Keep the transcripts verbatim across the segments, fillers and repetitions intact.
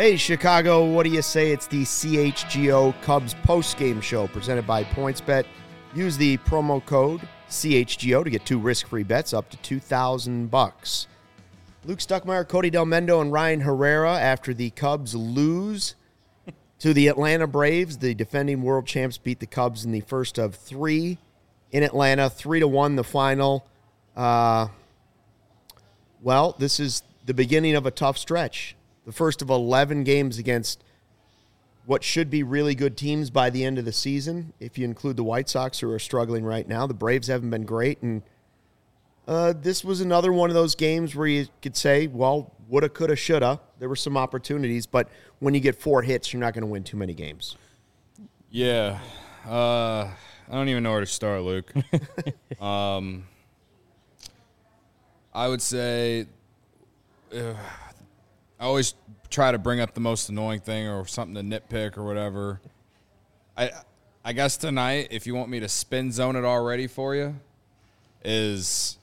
Hey, Chicago, what do you say? It's the C H G O Cubs postgame show presented by PointsBet. Use the promo code C H G O to get two risk-free bets up to two thousand bucks. Luke Stuckmeyer, Cody Delmendo, and Ryan Herrera after the Cubs lose to the Atlanta Braves. The defending world champs beat the Cubs in the first of three in Atlanta, three to one the final. Uh, well, this is the beginning of a tough stretch. The first of eleven games against what should be really good teams by the end of the season, if you include the White Sox, who are struggling right now. The Braves haven't been great, and uh, this was another one of those games where you could say, well, woulda, coulda, shoulda. There were some opportunities, but when you get four hits, you're not going to win too many games. Yeah. Uh, I don't even know where to start, Luke. um, I would say uh, I always try to bring up the most annoying thing or something to nitpick or whatever. I I guess tonight, if you want me to spin zone it already for you, is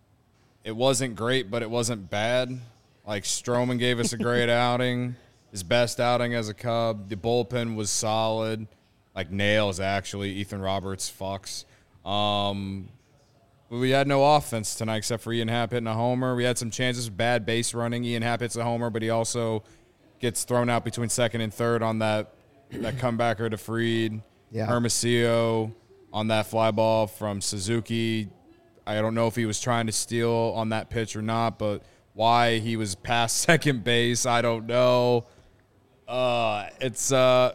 it wasn't great, but it wasn't bad. Like, Stroman gave us a great outing, his best outing as a Cub. The bullpen was solid, like nails, actually. Ethan Roberts fucks. Um, but we had no offense tonight except for Ian Happ hitting a homer. We had some chances, bad base running. Ian Happ hits a homer, but he also gets thrown out between second and third on that that comebacker to Fried. Yeah. Hermosillo on that fly ball from Suzuki. I don't know if he was trying to steal on that pitch or not, but why he was past second base, I don't know. Uh, it's, uh,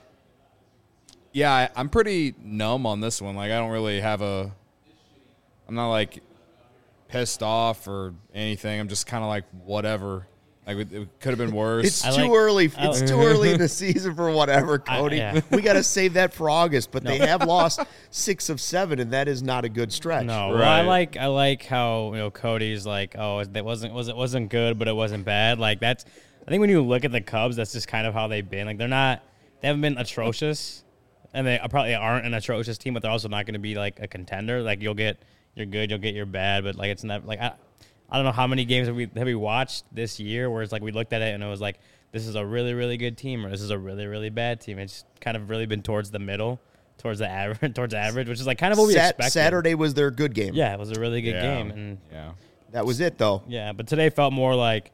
yeah, I, I'm pretty numb on this one. Like, I don't really have a, I'm not, like, pissed off or anything. I'm just kind of like, whatever. Like, it, it could have been worse. It's I too like- early. It's I like- too early in the season for whatever, Cody. I- yeah. We got to save that for August, but they have lost six of seven, and that is not a good stretch. No, well, I Right. like I like how you know Cody's like, oh, that wasn't was it wasn't good, but it wasn't bad. Like, that's, I think when you look at the Cubs, that's just kind of how they've been. Like, they're not, they haven't been atrocious, and they probably aren't an atrocious team, but they're also not going to be like a contender. Like, you'll get you're good, you'll get your bad, but like, it's not like I, I don't know how many games have we have we watched this year where it's like we looked at it and it was like, this is a really really good team or this is a really really bad team. It's kind of really been towards the middle. Towards the average, towards average, which is like kind of what we Sat- expected. Saturday was their good game. Yeah, it was a really good Yeah. game, and Yeah. That was it, though. yeah, but today felt more like,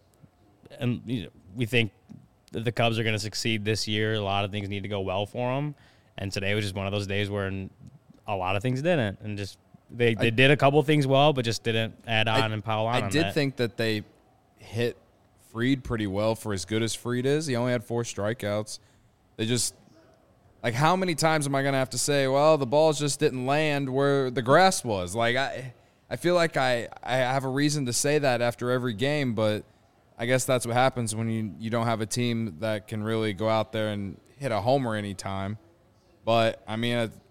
and you know, we think that the Cubs are going to succeed this year. A lot of things need to go well for them, and today was just one of those days where a lot of things didn't, and just they, they I, did a couple things well, but just didn't add on I, and pile on. I on did that. think that they hit Fried pretty well for as good as Fried is. He only had four strikeouts. They just, like, how many times am I going to have to say, well, the balls just didn't land where the grass was? Like, I I feel like I, I have a reason to say that after every game, but I guess that's what happens when you, you don't have a team that can really go out there and hit a homer anytime. But, I mean, it,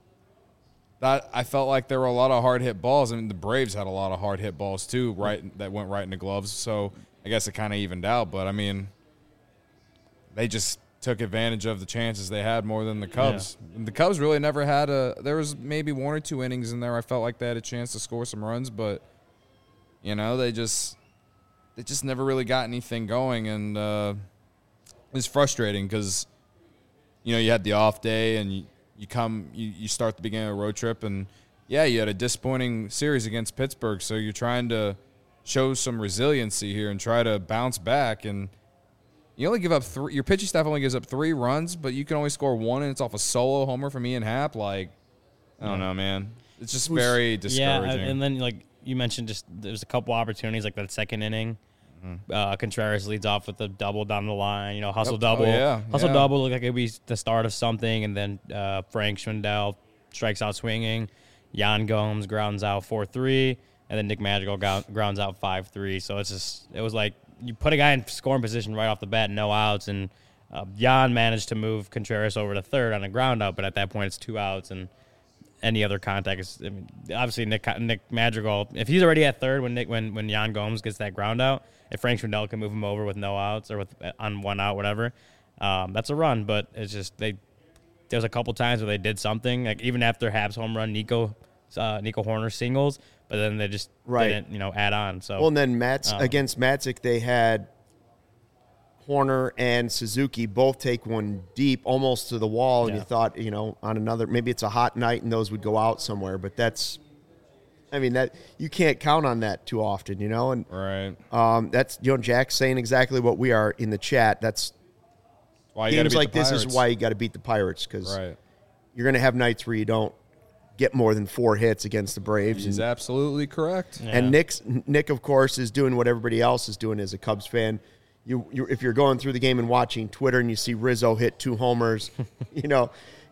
that I felt like there were a lot of hard-hit balls. I mean, the Braves had a lot of hard-hit balls, too, right, that went right in the gloves. So I guess it kind of evened out. But, I mean, they just took advantage of the chances they had more than the Cubs. Yeah. The Cubs really never had a – there was maybe one or two innings in there I felt like they had a chance to score some runs. But, you know, they just – they just never really got anything going. And uh, it was frustrating because, you know, you had the off day and you, you come – you, you start the beginning of a road trip. And, yeah, you had a disappointing series against Pittsburgh. So you're trying to show some resiliency here and try to bounce back. And – you only give up three. Your pitching staff only gives up three runs, but you can only score one, and it's off a solo homer from Ian Happ. Like, I don't know, man. It's just very discouraging. Yeah, and then like you mentioned, just there's a couple opportunities like that second inning. Mm-hmm. Uh, Contreras leads off with a double down the line. You know, hustle Yep. double, Oh, yeah. hustle Yeah. double. Looked like it'd be the start of something, and then uh, Frank Schwindel strikes out swinging. Jan Gomes grounds out four three, and then Nick Madrigal go- grounds out five three. So it's just it was like. You put a guy in scoring position right off the bat, no outs, and uh, Jan managed to move Contreras over to third on a ground out, but at that point it's two outs, and any other contact is, I mean, obviously Nick Nick Madrigal, if he's already at third when Nick when, when Jan Gomes gets that ground out, if Frank Schwindel can move him over with no outs or with on one out, whatever, um, that's a run, but it's just they there was a couple times where they did something, like even after Habs home run, Nico uh, Nico Horner singles, but then they just right. didn't, you know, add on. So well, and then Mats um, against Matzik, they had Horner and Suzuki both take one deep, almost to the wall, and Yeah. you thought, you know, on another, maybe it's a hot night and those would go out somewhere, but that's, I mean, that you can't count on that too often, you know, and Right. um, that's, you know, Jack's saying exactly what we are in the chat. That's Why you gotta games beat like the this is Pirates. why you got to beat the Pirates, because Right. you're going to have nights where you don't get more than four hits against the Braves. He's and, absolutely correct. Yeah. and Nick's, Nick, of course, is doing what everybody else is doing as a Cubs fan. You, you, if you're going through the game and watching Twitter and you see Rizzo hit two homers, you know,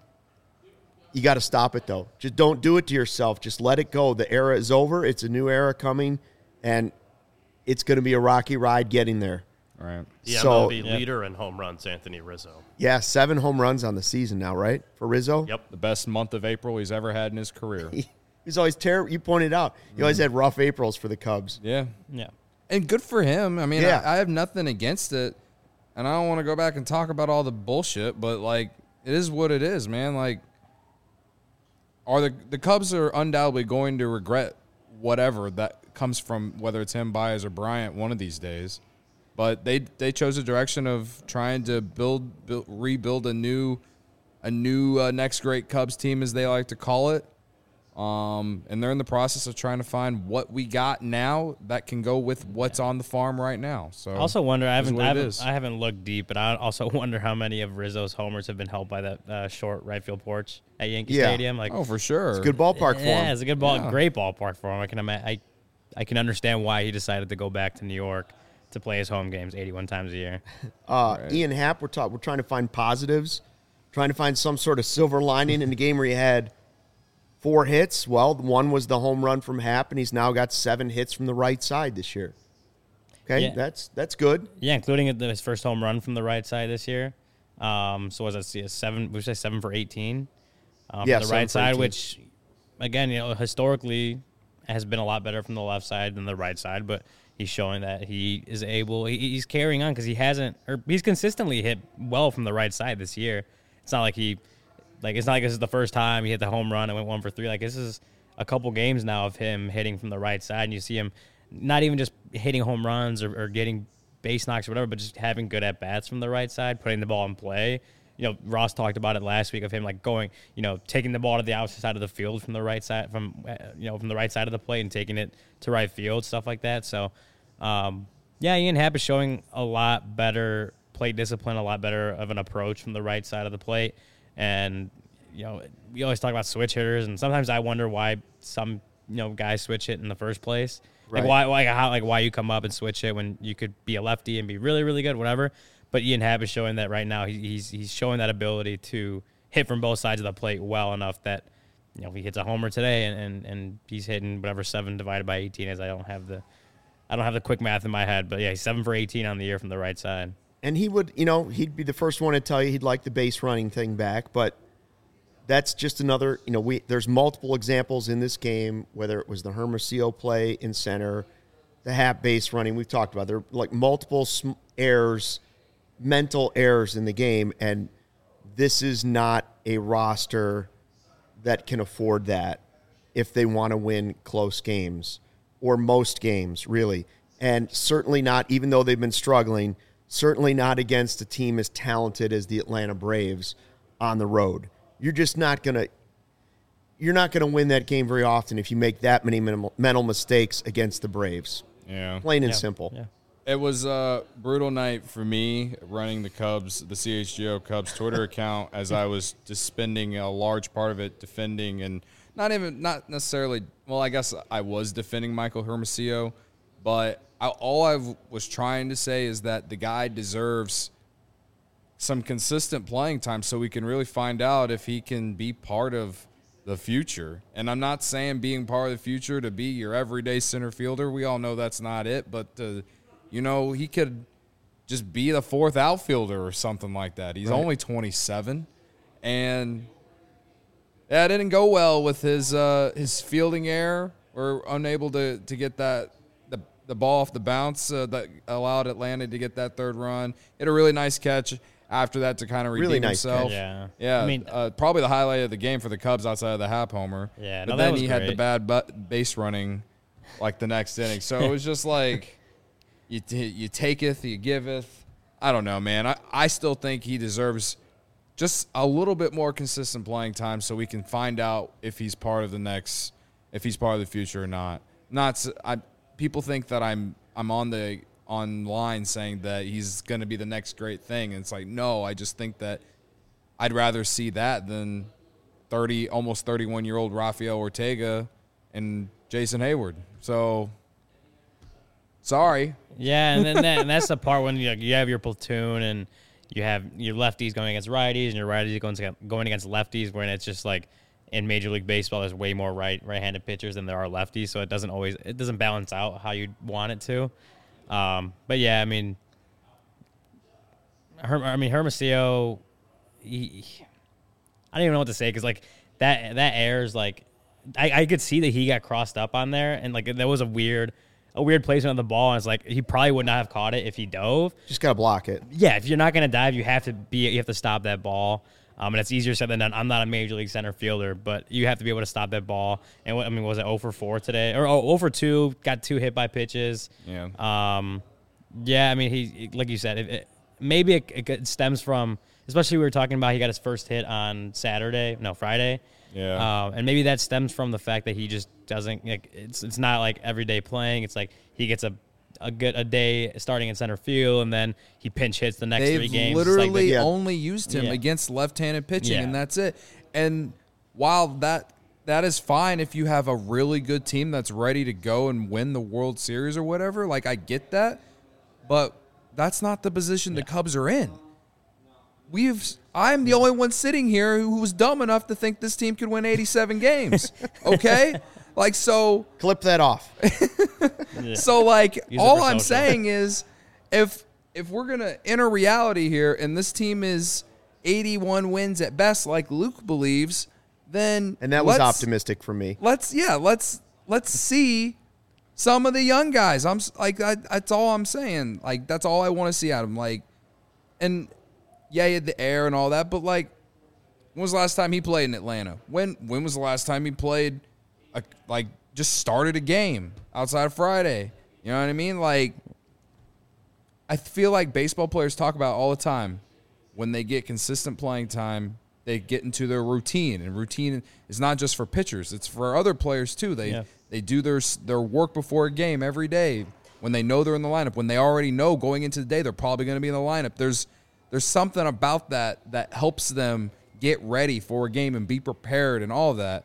you got to stop it, though. Just don't do it to yourself. Just let it go. The era is over. It's a new era coming, and it's going to be a rocky ride getting there. Right. The So- M L B Yeah. leader in home runs, Anthony Rizzo. Yeah, seven home runs on the season now, right, for Rizzo? Yep. The best month of April he's ever had in his career. He's always terrible. You pointed out he always had rough Aprils for the Cubs. Yeah. Yeah. And good for him. I mean, Yeah. I, I have nothing against it. And I don't want to go back and talk about all the bullshit, but, like, it is what it is, man. Like, are the the Cubs are undoubtedly going to regret whatever that comes from, whether it's him, Baez, or Bryant, one of these days. But they they chose a direction of trying to build, build rebuild a new a new uh, next great Cubs team, as they like to call it. Um, and they're in the process of trying to find what we got now that can go with what's on the farm right now. So I also wonder. I it is haven't. what I it haven't, is. I haven't looked deep, but I also wonder how many of Rizzo's homers have been helped by that uh, short right field porch at Yankee Yeah. Stadium. Like, Oh, for sure. It's a good ballpark for yeah, him. it's a good ball, Yeah. great ballpark for him. I can ima- I, I can understand why he decided to go back to New York to play his home games eighty-one times a year. Uh, Right. Ian Happ, we're, talk, we're trying to find positives, trying to find some sort of silver lining in the game where he had four hits. Well, one was the home run from Happ, and he's now got seven hits from the right side this year. Okay, Yeah. that's that's good. Yeah, including it- his first home run from the right side this year. Um, so was that see, a seven? We say seven for eighteen. Um, Yeah, from the seven right for side, eighteen. which again, you know, historically has been a lot better from the left side than the right side, but he's showing that he is able. He, he's carrying on because he hasn't, or he's consistently hit well from the right side this year. It's not like he, like it's not like this is the first time he hit the home run and went one for three. Like this is a couple games now of him hitting from the right side, and you see him not even just hitting home runs or, or getting base knocks or whatever, but just having good at bats from the right side, putting the ball in play. You know, Ross talked about it last week of him like going, you know, taking the ball to the opposite side of the field from the right side, from uh, you know, from the right side of the plate and taking it to right field, stuff like that. So, um, yeah, Ian Happ is showing a lot better plate discipline, a lot better of an approach from the right side of the plate. And, you know, we always talk about switch hitters, and sometimes I wonder why some, you know, guys switch hit in the first place. Right. Like why, why, how, like why you come up and switch it when you could be a lefty and be really, really good, whatever. But Ian Happ is showing that right now. He, he's he's showing that ability to hit from both sides of the plate well enough that, you know, if he hits a homer today and, and, and he's hitting whatever seven divided by eighteen is. I don't have the, I don't have the quick math in my head, but yeah, he's seven for eighteen on the year from the right side. And he would, you know, he'd be the first one to tell you he'd like the base running thing back, but that's just another, you know, we there's multiple examples in this game, whether it was the Hermosillo play in center, the Happ base running, we've talked about. There are like multiple sm- errors, mental errors in the game, and this is not a roster that can afford that if they want to win close games or most games, really. And certainly not, even though they've been struggling, certainly not against a team as talented as the Atlanta Braves on the road. You're just not going to you're not going to win that game very often if you make that many minimal, mental mistakes against the Braves. Yeah. Plain and Yeah, simple. Yeah. It was a brutal night for me running the Cubs, the C H G O Cubs Twitter account, as I was just spending a large part of it defending and not even, not necessarily, well, I guess I was defending Michael Hermosillo, but I, all I was trying to say is that the guy deserves some consistent playing time so we can really find out if he can be part of the future. And I'm not saying being part of the future to be your everyday center fielder. We all know that's not it, but uh, you know, he could just be the fourth outfielder or something like that. He's Right. only twenty-seven, and yeah, it didn't go well with his uh, his fielding error. We're unable to to get that the the ball off the bounce uh, that allowed Atlanta to get that third run. He had a really nice catch after that to kind of redeem Really nice himself. catch. Yeah. Yeah, I mean, uh, probably the highlight of the game for the Cubs outside of the Happ homer. Yeah, but no, that then was he had the great. bad bu- base running, like the next inning. So it was just like you t- you taketh, you giveth. I don't know, man. I, I still think he deserves just a little bit more consistent playing time so we can find out if he's part of the next, if he's part of the future or not. Not s- I, people think that I'm I'm on the online saying that he's going to be the next great thing, and it's like, no, I just think that I'd rather see that than thirty, almost thirty-one year old Rafael Ortega and Jason Hayward. So, sorry. Yeah, and then that, and that's the part when you, you have your platoon and you have your lefties going against righties and your righties going against, going against lefties, when it's just like in Major League Baseball, there's way more right right-handed pitchers than there are lefties, so it doesn't always it doesn't balance out how you want it to. Um, but yeah, I mean, Her, I mean Hermosillo, he, I don't even know what to say because like that that airs like I, I could see that he got crossed up on there, and like that was a weird. A weird placement of the ball, and it's like he probably would not have caught it if he dove. Just gotta block it. Yeah, if you're not gonna dive, you have to be. You have to stop that ball. Um, and it's easier said than done. I'm not a major league center fielder, but you have to be able to stop that ball. And what, I mean, was it zero for four today, or oh, zero for two? Got two hit by pitches. Yeah. Um, yeah. I mean, he like you said, it, it, maybe it, it stems from, especially we were talking about. He got his first hit on Saturday, no Friday. Yeah. Um, and maybe that stems from the fact that he just doesn't like it's it's not like everyday playing. It's like he gets a a good a day starting in center field, and then he pinch hits the next They've three games. literally It's like the, yeah. only used him Yeah. against left-handed pitching, Yeah. and that's it. And while that that is fine if you have a really good team that's ready to go and win the World Series or whatever, like I get that, but that's not the position the Cubs are in. We've I'm the only one sitting here who was dumb enough to think this team could win eighty-seven games. Okay? Like so Clip that off. So like Use it all for I'm social. saying is if if we're going to enter reality here and this team is eighty-one wins at best like Luke believes, then And that was let's- optimistic for me. Let's yeah, let's let's see some of the young guys. I'm s- like I, that's all I'm saying. Like that's all I want to see out of them. Like and yeah, he had the air and all that, but like when was the last time he played in Atlanta? When when was the last time he played a, like just started a game outside of Friday? You know what I mean? Like I feel like baseball players talk about all the time when they get consistent playing time, they get into their routine, and routine is not just for pitchers; it's for other players too. They Yeah. they do their their work before a game every day when they know they're in the lineup. When they already know going into the day they're probably going to be in the lineup. There's there's something about that that helps them get ready for a game and be prepared and all of that.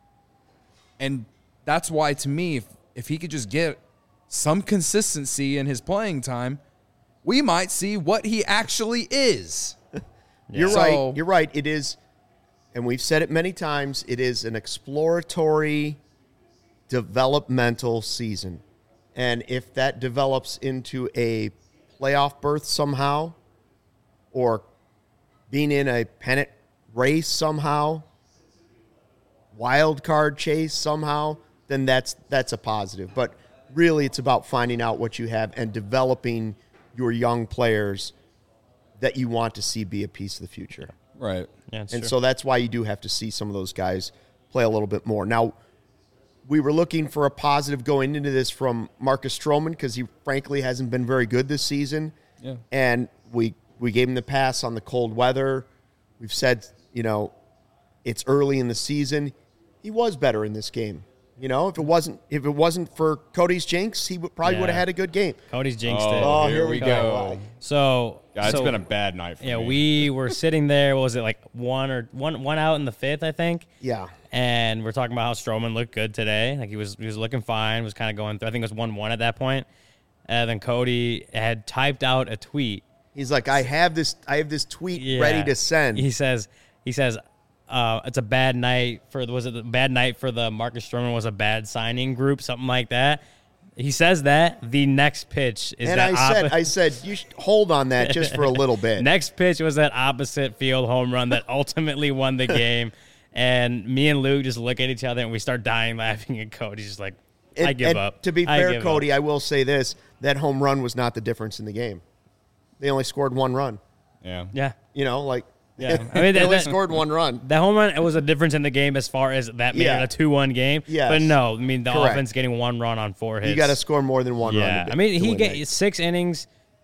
And that's why, to me, if if he could just get some consistency in his playing time, we might see what he actually is. You're So- right. You're right. It is, and we've said it many times, it is an exploratory, developmental season. And if that develops into a playoff berth somehow, or being in a pennant race somehow, wild card chase somehow, then that's that's a positive. But really, it's about finding out what you have and developing your young players that you want to see be a piece of the future. Right. yeah, it's And true. so that's why you do have to see some of those guys play a little bit more. Now, we were looking for a positive going into this from Marcus Stroman because he frankly hasn't been very good this season. Yeah. And we we gave him the pass on the cold weather. We've said, you know, it's early in the season. He was better in this game. You know, if it wasn't if it wasn't for Cody's jinx, he would, probably Yeah. would have had a good game. Cody's jinxed Oh, it. Oh, here, here we we go. go. So Yeah, it's so, been a bad night for yeah. me. We were sitting there. What was it like one or one one out in the fifth, I think. Yeah. And we're talking about how Stroman looked good today. Like he was he was looking fine. Was kind of going through. I think it was one one at that point. And then Cody had typed out a tweet. He's like, I have this I have this tweet Yeah. ready to send. He says he says uh, it's a bad night for was it a bad night for the Marcus Stroman was a bad signing group, something like that. He says that the next pitch is and that I said, oppo- I said, you should hold on that just for a little bit. next pitch was that opposite field home run that ultimately won the game. And me and Luke just look at each other and we start dying laughing. And Cody's just like, I And- give and up. To be I fair, give Cody, up. I will say this: that home run was not the difference in the game. They only scored one run. Yeah. Yeah. You know, like Yeah. I mean, they that- only that- scored one run. That home run, it was a difference in the game as far as that made Yeah. it a two one game. Yes. But no, I mean, the Correct. offense getting one run on four hits. You got to score more than one Yeah. run. to- I mean, to he win get that. six innings,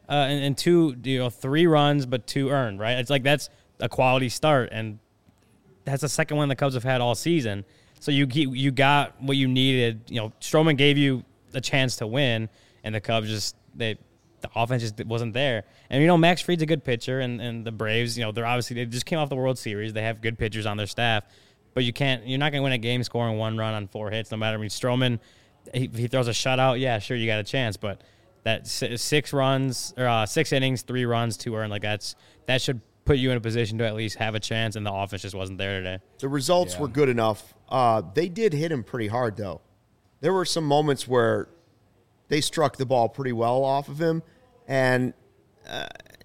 uh, and, and two, you know, three runs, but two earned, right? It's like that's a quality start, and that's the second one the Cubs have had all season. So you you got what you needed. You know, Stroman gave you a chance to win, and the Cubs just they the offense just wasn't there. And you know, Max Fried's a good pitcher, and, and the Braves, you know, they're obviously they just came off the World Series. They have good pitchers on their staff, but you can't you're not going to win a game scoring one run on four hits, no matter. I mean, Stroman, he, he throws a shutout, yeah, sure, you got a chance, but that six runs or uh, six innings, three runs, two earned, like that's that should put you in a position to at least have a chance, and the offense just wasn't there today. The results Yeah. were good enough. Uh, they did hit him pretty hard, though. There were some moments where they struck the ball pretty well off of him, and uh,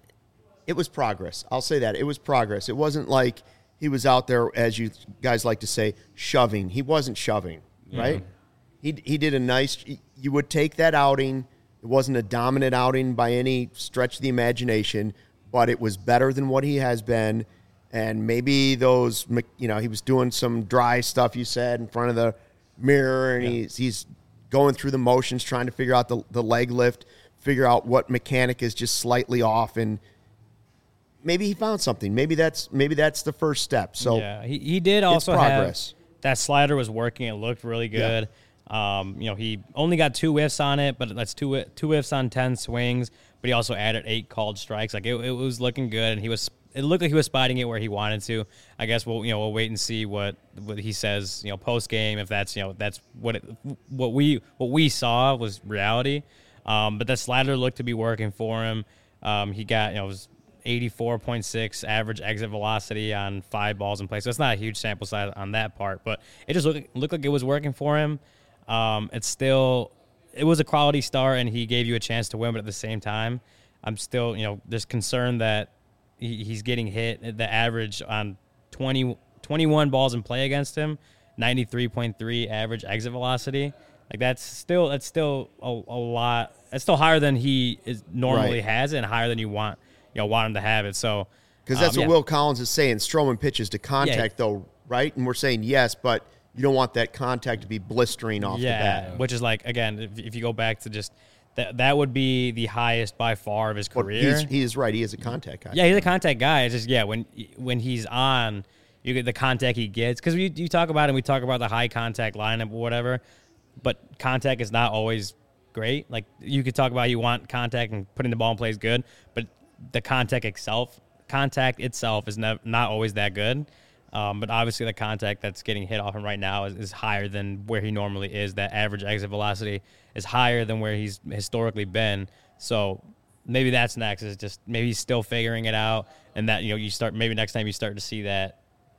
it was progress. I'll say that. It was progress. It wasn't like he was out there, as you guys like to say, shoving. He wasn't shoving, right? He he did a nice – you would take that outing. It wasn't a dominant outing by any stretch of the imagination, but it was better than what he has been. And maybe those, you know, he was doing some dry stuff, you said, in front of the mirror, and yeah. he's he's going through the motions, trying to figure out the, the leg lift, figure out what mechanic is just slightly off, and maybe he found something. Maybe that's maybe that's the first step. So yeah, he, he did also progress. have that slider was working. It looked really good. Yeah. Um, you know, he only got two whiffs on it, but that's two two whiffs on ten swings. But he also added eight called strikes. Like it, it was looking good, and he was. It looked like he was spotting it where he wanted to. I guess we'll you know we'll wait and see what, what he says you know post game, if that's you know that's what it, what we what we saw was reality. Um, but that slider looked to be working for him. Um, he got you know it was eighty-four point six average exit velocity on five balls in play. So it's not a huge sample size on that part, but it just looked looked like it was working for him. Um, it's still it was a quality start, and he gave you a chance to win, but at the same time, I'm still you know just concerned that. He's getting hit. The average on twenty, twenty-one balls in play against him, ninety-three point three average exit velocity. Like that's still that's still a, a lot. That's still higher than he is normally right. has, and higher than you want you know want him to have it. So because that's um, what yeah. Will Collins is saying. Stroman pitches to contact, yeah. though, right? And we're saying yes, but you don't want that contact to be blistering off yeah, the bat. Which is like again, if, if you go back to just. That that would be the highest by far of his career. He's, he is right. He is a contact guy. Yeah, he's a contact guy. It's just, yeah, when when he's on, you get the contact he gets. Because you, you talk about it, and we talk about the high contact lineup or whatever, but contact is not always great. Like, you could talk about you want contact and putting the ball in play is good, but the contact itself, contact itself is nev- not always that good. Um, but obviously the contact that's getting hit off him right now is, is higher than where he normally is. That average exit velocity is higher than where he's historically been. So maybe that's next. Is just maybe he's still figuring it out, and that you know you start maybe next time you start to see that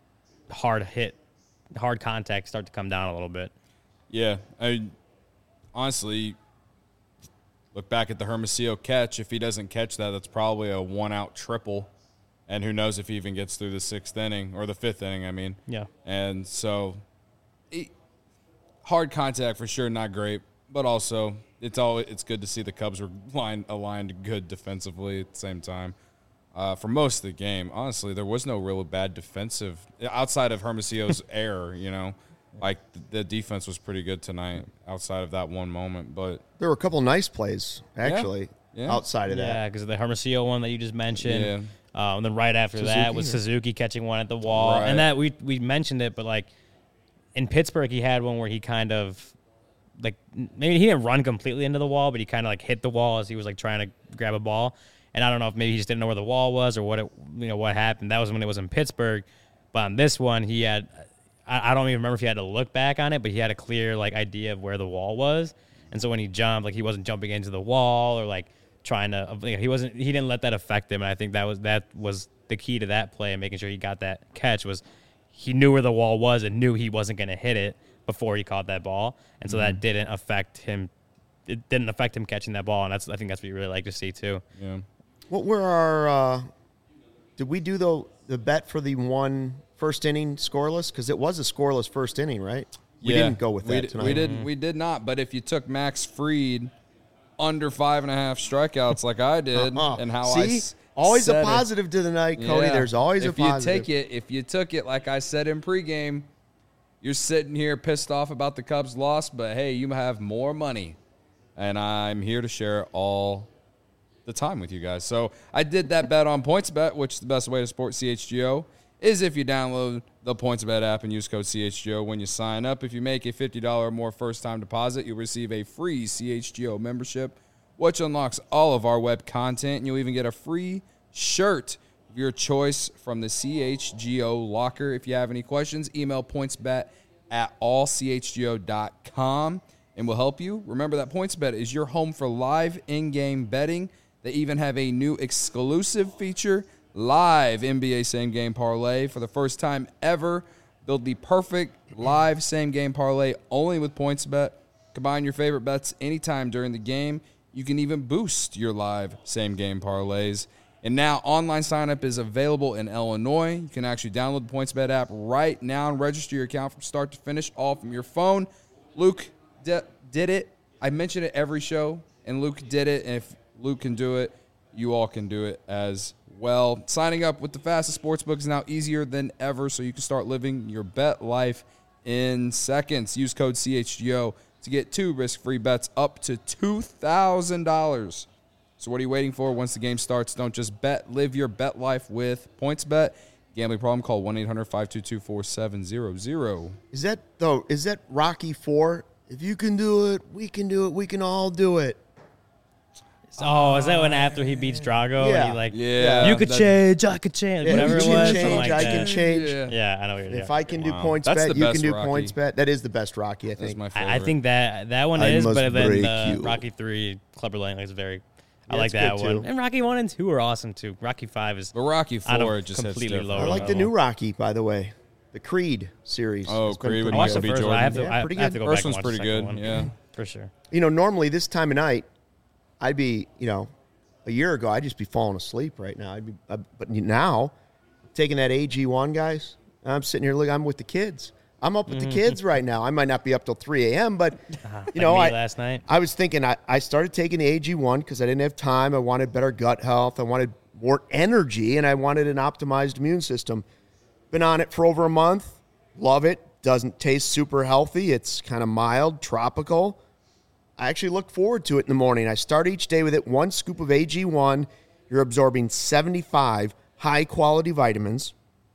hard hit, hard contact start to come down a little bit. Yeah, I honestly look back at the Hermosillo catch. If he doesn't catch that, that's probably a one-out triple. And who knows if he even gets through the sixth inning or the fifth inning, I mean. Yeah. And so it, hard contact for sure, not great. But also it's all it's good to see the Cubs were line, aligned good defensively at the same time. Uh, for most of the game, honestly, there was no really bad defensive outside of Hermosillo's error, you know. Like, the, the defense was pretty good tonight outside of that one moment. But there were a couple nice plays, actually, yeah. Yeah. outside of that. Yeah, because of the Hermosillo one that you just mentioned. Yeah. Um, and then right after Suzuki, that was or? Suzuki catching one at the wall. Right. And that we we mentioned it, but, like, in Pittsburgh, he had one where he kind of, like, maybe he didn't run completely into the wall, but he kind of, like, hit the wall as he was, like, trying to grab a ball. And I don't know if maybe he just didn't know where the wall was or what it, you know, what happened. That was when it was in Pittsburgh. But on this one, he had, I, I don't even remember if he had to look back on it, but he had a clear, like, idea of where the wall was. And so when he jumped, like, he wasn't jumping into the wall or, like, trying to, he wasn't, he didn't let that affect him. And I think that was, that was the key to that play and making sure he got that catch was he knew where the wall was and knew he wasn't going to hit it before he caught that ball. And so mm-hmm. that didn't affect him. It didn't affect him catching that ball. And that's, I think that's what you really like to see too. Yeah. What were our, uh, did we do the, the bet for the one first inning scoreless? Because it was a scoreless first inning, right? We yeah, didn't go with that we d- tonight. We did, we did not. But if you took Max Fried under five and a half strikeouts like I did, uh-huh. and how See? I s- always a said positive it, to the night, Cody. yeah. There's always if a positive. you take it, if you took it like I said in pregame, you're sitting here pissed off about the Cubs' loss, but hey, you have more money, and I'm here to share all the time with you guys. So I did that bet on PointsBet, which is the best way to support C H G O is if you download the PointsBet app and use code C H G O when you sign up. If you make a fifty dollars or more first-time deposit, you'll receive a free C H G O membership, which unlocks all of our web content, and you'll even get a free shirt of your choice from the C H G O locker. If you have any questions, email pointsbet at all c h g o dot com, and we'll help you. Remember that PointsBet is your home for live in-game betting. They even have a new exclusive feature, live N B A same-game parlay. For the first time ever, build the perfect live same-game parlay only with PointsBet. Combine your favorite bets anytime during the game. You can even boost your live same-game parlays. And now online sign-up is available in Illinois. You can actually download the PointsBet app right now and register your account from start to finish, all from your phone. Luke d- did it. I mention it every show, and Luke did it. And if Luke can do it, you all can do it as well. Signing up with the fastest sportsbook is now easier than ever, so you can start living your bet life in seconds. Use code C H G O to get two risk-free bets up to two thousand dollars. So what are you waiting for? Once the game starts, don't just bet. Live your bet life with PointsBet. Gambling problem? Call one eight hundred five two two four seven zero zero. Is that, though, is that Rocky four? If you can do it, we can do it. We can all do it. Oh, is that when after he beats Drago Yeah. and he like, Yeah. you could That- change, I could change, Yeah, whatever you it can was, change, something like I that. can change. Yeah. Yeah, I know what you're If doing. I can do Wow. points That's bet, the you can best do Rocky. points bet. That is the best Rocky, I That's think. my favorite. I, I think that that one I is, must but then break the you. Rocky three, Clubber Lang is very. I Yeah, like it's that good, one. too. And Rocky one and two are awesome too. Rocky five is But Rocky I don't four just hits completely different. lower I like the level. new Rocky, by the way. The Creed series. Oh, has been Creed pretty with I watched the Michael B. first one. Jordan. I have to, Yeah, I, pretty I have to good. go First back and one's watch pretty the good. second one. Yeah. For sure. You know, normally this time of night, I'd be, you know, a year ago, I'd just be falling asleep right now. I'd be, I, but now, taking that A G one, guys, I'm sitting here, look, I'm with the kids. I'm up with the kids right now. I might not be up till three a.m., but, you know, Like me I, last night. I was thinking, I, I started taking the A G one because I didn't have time. I wanted better gut health. I wanted more energy, and I wanted an optimized immune system. Been on it for over a month. Love it. Doesn't taste super healthy. It's kind of mild, tropical. I actually look forward to it in the morning. I start each day with it. One scoop of A G one. You're absorbing seventy-five high-quality vitamins,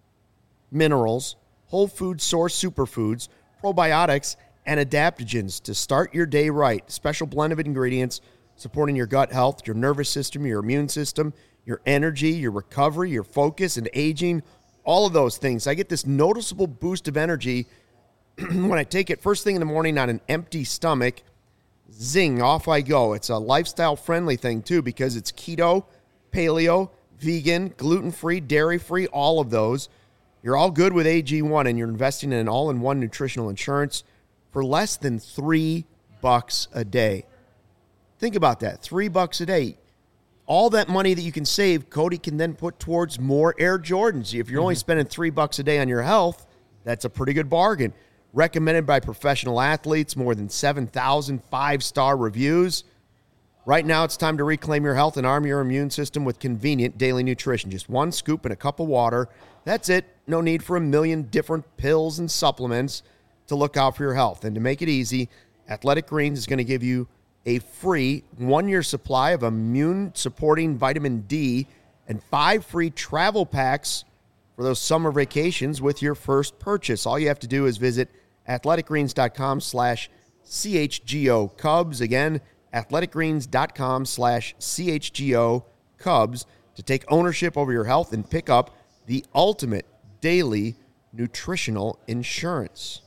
minerals, whole food source superfoods, probiotics, and adaptogens to start your day right. Special blend of ingredients supporting your gut health, your nervous system, your immune system, your energy, your recovery, your focus, and aging, all of those things. I get this noticeable boost of energy when I take it first thing in the morning on an empty stomach. Zing, off I go. It's a lifestyle-friendly thing, too, because it's keto, paleo, vegan, gluten-free, dairy-free, all of those. You're all good with A G one, and you're investing in an all-in-one nutritional insurance for less than three bucks a day. Think about that, three bucks a day. All that money that you can save, Cody can then put towards more Air Jordans. If you're mm-hmm. only spending three bucks a day on your health, that's a pretty good bargain. Recommended by professional athletes, more than seven thousand five-star reviews. Right now, it's time to reclaim your health and arm your immune system with convenient daily nutrition. Just one scoop and a cup of water. That's it. No need for a million different pills and supplements to look out for your health. And to make it easy, Athletic Greens is going to give you a free one-year supply of immune-supporting vitamin D and five free travel packs for those summer vacations with your first purchase. All you have to do is visit athleticgreens.com slash CHGO Cubs. Again, athleticgreens.com slash CHGO Cubs to take ownership over your health and pick up the ultimate daily nutritional insurance.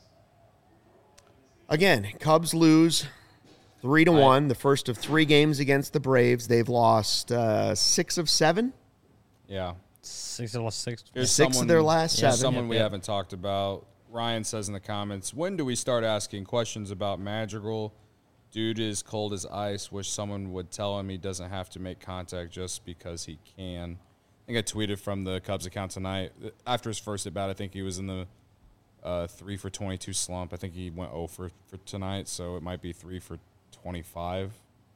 Again, Cubs lose three to one, the first of three games against the Braves. They've lost uh, six of seven. Yeah. Six of six. Here's Six of their last here's seven. Someone Yep, we yep. haven't talked about. Ryan says in the comments, when do we start asking questions about Madrigal? Dude is cold as ice. Wish someone would tell him he doesn't have to make contact just because he can. I think I tweeted from the Cubs account tonight. After his first at bat, I think he was in the uh, three for twenty-two slump. I think he went oh for, for tonight, so it might be three for twenty-five.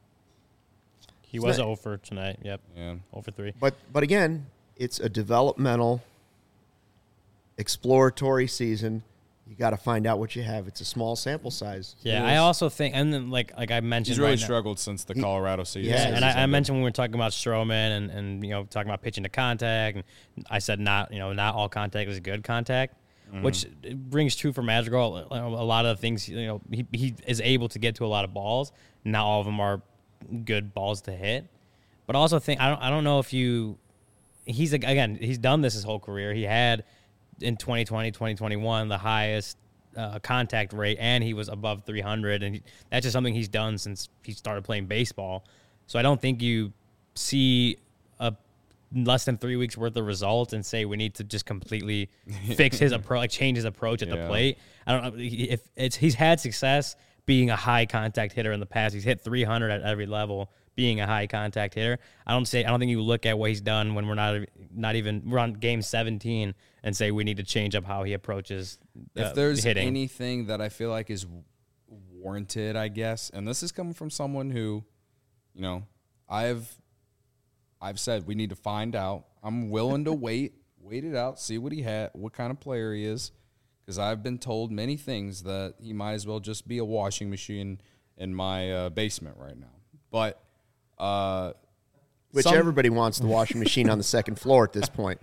He was zero for tonight. Yep. Yeah. zero for three. But but again, it's a developmental, exploratory season. you got to find out what you have. It's a small sample size. Yeah, I also think, and then like like I mentioned, He's really right now- struggled since the Colorado season. Yeah, Yeah, and I, I mentioned when we were talking about Stroman and, and you know talking about pitching to contact, and I said not you know not all contact is good contact, Mm-hmm. which rings true for Madrigal. A lot of things you know he he is able to get to a lot of balls. Not all of them are good balls to hit, but I also think I don't I don't know if you he's again he's done this his whole career. He had in twenty twenty, twenty twenty-one the highest uh, contact rate, and he was above three hundred, and he, that's just something he's done since he started playing baseball. So I don't think you see a less than three weeks worth of results and say we need to just completely fix his approach, like change his approach at Yeah. the plate. I don't know if it's he's had success being a high contact hitter in the past. He's hit three hundred at every level, being a high contact hitter. I don't say I don't think you look at what he's done when we're not not even we're on game seventeen and say we need to change up how he approaches uh, If there's hitting. anything that I feel like is warranted, I guess, and this is coming from someone who, you know, I've I've said we need to find out. I'm willing to wait, wait it out, see what he had, what kind of player he is, because I've been told many things that he might as well just be a washing machine in my uh, basement right now. But uh, Which some- everybody wants the washing machine on the second floor at this point.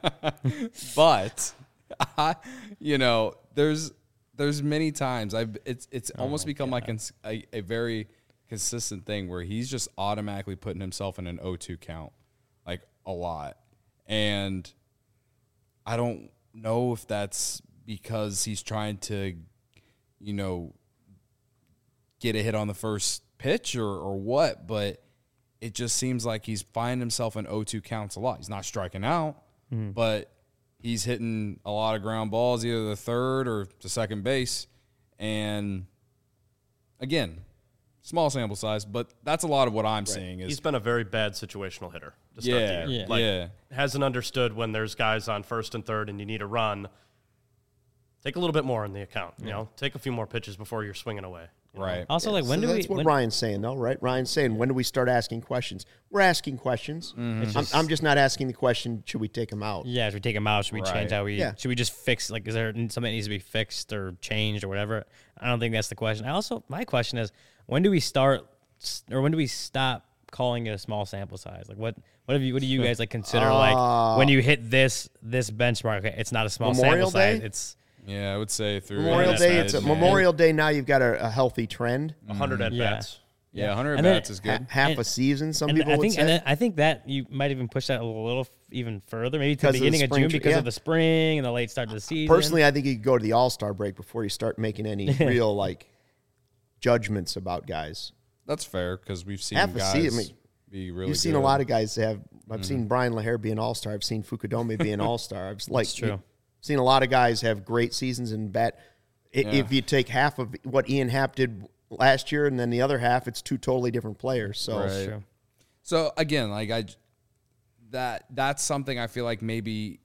but I, you know, there's there's many times I've it's it's almost become like cons- a, a very consistent thing where he's just automatically putting himself in an oh two count, like a lot, and I don't know if that's because he's trying to, you know, get a hit on the first pitch or or what, but it just seems like he's finding himself in oh two counts a lot. He's not striking out, Mm-hmm. but he's hitting a lot of ground balls, either the third or to second base. And again, small sample size, but that's a lot of what I'm seeing is He's been a very bad situational hitter to start yeah, the year. Yeah. Like, yeah. hasn't understood when there's guys on first and third and you need a run. Take a little bit more in the account. You know, take a few more pitches before you're swinging away. you know? Right. Also, like when So do we? that's what when- Ryan's saying, though, right? Ryan's saying, when do we start asking questions? We're asking questions. It's I'm, just- I'm just not asking the question, should we take him out? Yeah, should we take him out? Should we change Right. how we? Yeah. Should we just fix? Like, is there something that needs to be fixed or changed or whatever? I don't think that's the question. I also, my question is, when do we start, or when do we stop calling it a small sample size? Like, what, what have you, what do you guys like consider like when you hit this this benchmark? Okay, it's not a small Memorial sample size. Day? It's Yeah, I would say through Memorial that's Day, bad, it's a, man. Memorial Day. Now you've got a, a healthy trend. one hundred at Yeah. bats. Yeah, one hundred And then- bats is Ha- good. half And- a season, some and people I would think, say. and then I think that you might even push that a little f- even further, maybe to the Because of the beginning of, spring June tra- because yeah. of the spring and the late start to the season. Personally, I think you could go to the All-Star break before you start making any real like judgments about guys. That's fair because we've seen Half a guys season, I mean, be really You've seen good. a lot of guys have. I've Mm-hmm. seen Brian LaHair be an All-Star. I've seen Fukudome be an All-Star. I've like That's true. you've seen a lot of guys have great seasons and bat. I Yeah. If you take half of what Ian Happ did last year and then the other half, it's two totally different players. So Right. That's true. So again, like I, that that's something I feel like maybe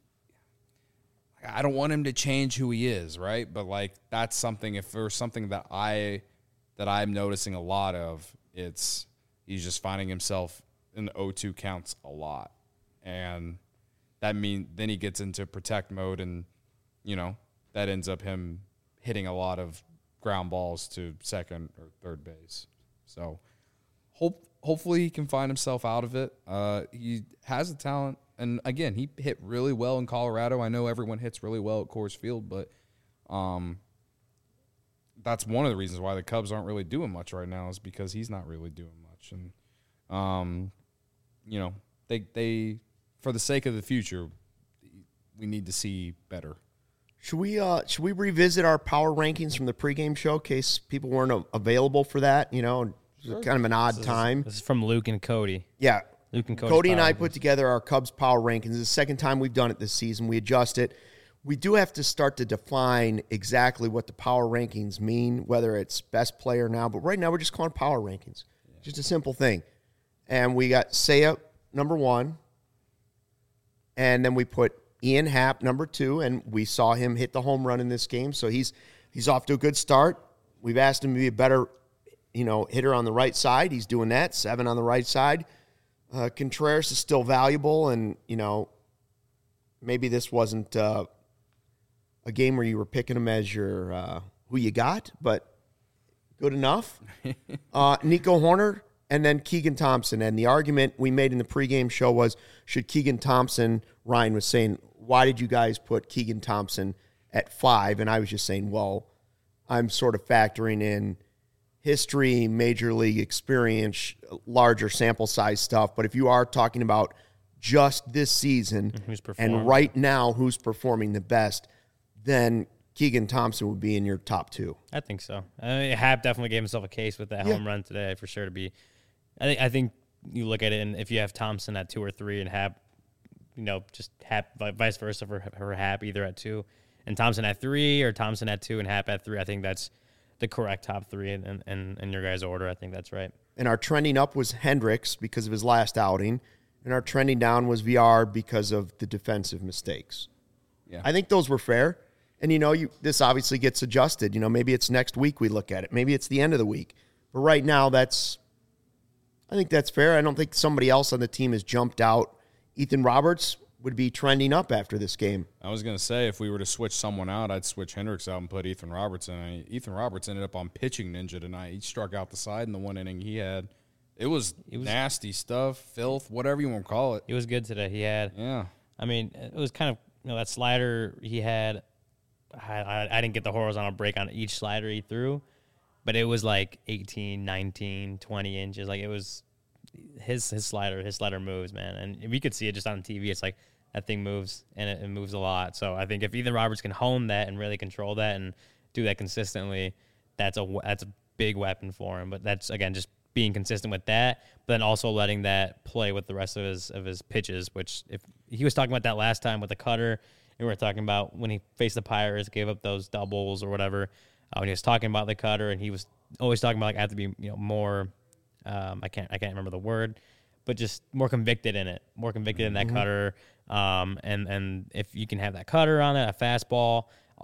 I don't want him to change who he is, right? But like that's something. If there's something that I that I'm noticing a lot of, it's he's just finding himself in the oh two counts a lot, and that mean then he gets into protect mode, and you know that ends up him hitting a lot of ground balls to second or third base. So hope hopefully he can find himself out of it. Uh, he has the talent, and again, he hit really well in Colorado. I know everyone hits really well at Coors Field, but um, that's one of the reasons why the Cubs aren't really doing much right now is because he's not really doing much. And um, you know, they they for the sake of the future, we need to see better. should we uh, should we revisit our power rankings from the pregame show in case people weren't a- available for that? You know, it was kind of an odd time. This is from Luke and Cody. Yeah. Luke and Cody's Cody and I power put together our Cubs power rankings. It's the second time we've done it this season. We adjust it. We do have to start to define exactly what the power rankings mean, whether it's best player now. But right now, we're just calling it power rankings. Just a simple thing. And we got Seiya, number one. And then we put Ian Happ, number two. And we saw him hit the home run in this game. So he's he's off to a good start. We've asked him to be a better, you know, hitter on the right side. He's doing that. Seven on the right side. Uh, Contreras is still valuable, and, you know, maybe this wasn't uh, a game where you were picking them as your uh, who you got, but good enough. uh, Nico Horner and then Keegan Thompson. And the argument we made in the pregame show was, should Keegan Thompson, Ryan was saying, why did you guys put Keegan Thompson at five? And I was just saying, well, I'm sort of factoring in history, major league experience, larger sample size stuff. But if you are talking about just this season and right now who's performing the best, then Keegan Thompson would be in your top two. I think so. I mean, Happ definitely gave himself a case with that Yeah. home run today for sure to be. I think I think you look at it, and if you have Thompson at two or three and Happ, you know, just Happ, vice versa for, for Happ, either at two and Thompson at three, or Thompson at two and Happ at three, I think that's the correct top three in, in, in your guys' order. I think that's right. And our trending up was Hendricks because of his last outing, and our trending down was V R because of the defensive mistakes. Yeah. I think those were fair. And, you know, you this obviously gets adjusted. You know, maybe it's next week we look at it. Maybe it's the end of the week. But right now, that's I think that's fair. I don't think somebody else on the team has jumped out. Ethan Roberts would be trending up after this game. I was going to say, if we were to switch someone out, I'd switch Hendricks out and put Ethan Roberts in. I mean, Ethan Roberts ended up on pitching ninja tonight. He struck out the side in the one inning he had. It was, It was nasty stuff, filth, whatever you want to call it. He was good today. He had, Yeah. I mean, it was kind of, you know, that slider he had, I, I, I didn't get the horizontal break on each slider he threw, but it was like eighteen, nineteen, twenty inches. Like, it was his his slider, his slider moves, man. And we could see it just on T V. It's like that thing moves, and it, it moves a lot. So I think if Ethan Roberts can hone that and really control that and do that consistently, that's a, that's a big weapon for him. But that's, again, just being consistent with that, but then also letting that play with the rest of his of his pitches, which if he was talking about that last time with the cutter, and we were talking about when he faced the Pirates, gave up those doubles or whatever, uh, when he was talking about the cutter, and he was always talking about, like, I have to be, you know, more, um, I can't I can't remember the word, but just more convicted in it, more convicted mm-hmm. in that cutter, um, and, and if you can have that cutter on it, a fastball,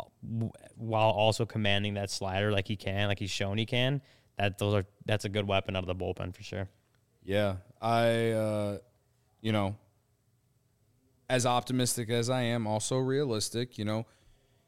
while also commanding that slider like he can, like he's shown he can, that those are that's a good weapon out of the bullpen for sure. Yeah, I, uh, you know, as optimistic as I am, also realistic. You know,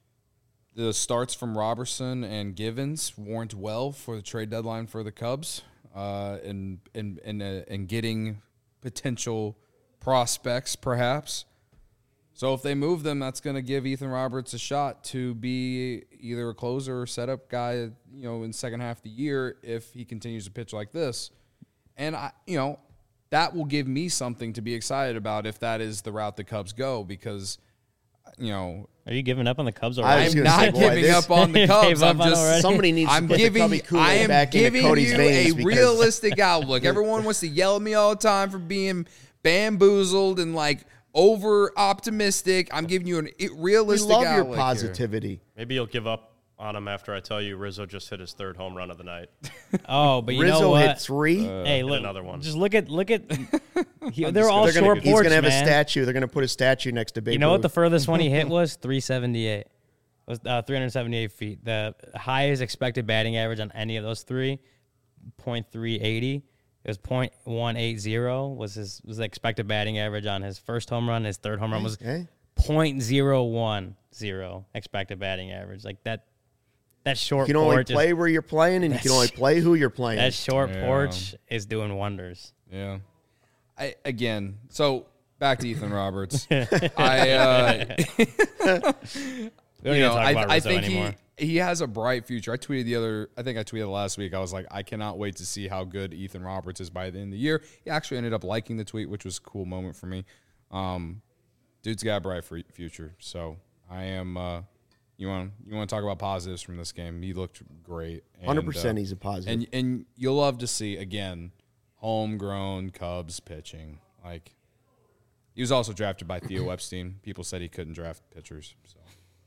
the starts from Robertson and Givens warrant well for the trade deadline for the Cubs, uh, and and and uh, and getting potential prospects, perhaps. So if they move them, that's going to give Ethan Roberts a shot to be either a closer or setup guy, you know, in the second half of the year if he continues to pitch like this. And, I, you know, that will give me something to be excited about if that is the route the Cubs go because, you know. Are you giving up on the Cubs I already? was I'm gonna not say, boy, giving this- up on the Cubs. I'm just Somebody needs I'm to put giving, the Cubby I Kool-Aid am back into giving Cody's you veins a because- realistic outlook. Everyone wants to yell at me all the time for being bamboozled and like over optimistic. I'm giving you a We realistic love your outlook here. positivity. Maybe you'll give up on him after I tell you Rizzo just hit his third home run of the night. Oh, but you Rizzo know what? hit three. Hey, look, another one. Just look at look at. He, they're just all They're gonna- short he's porch, going to have man. a statue. They're going to put a statue next to Babe You know what the Ruth. furthest one he hit was? three seventy-eight. It was uh, three hundred seventy-eight feet. The highest expected batting average on any of those three, point three eighty. It was point one eight zero was his was the expected batting average on his first home run. His third home run was Okay. point zero one zero expected batting average. Like that. That short You can only porch. play is, where you're playing, and you can only play who you're playing. that short Yeah. porch is doing wonders. Yeah. I again, so back to Ethan Roberts. I uh We don't you need to know, talk I, about I Rizzo think anymore. he he has a bright future. I tweeted the other I think I tweeted last week. I was like, I cannot wait to see how good Ethan Roberts is by the end of the year. He actually ended up liking the tweet, which was a cool moment for me. Um dude's got a bright f- future. So I am uh You want you want to talk about positives from this game? He looked great. And, one hundred percent uh, he's a positive. And and you'll love to see again, homegrown Cubs pitching. Like he was also drafted by Theo Epstein. People said he couldn't draft pitchers. So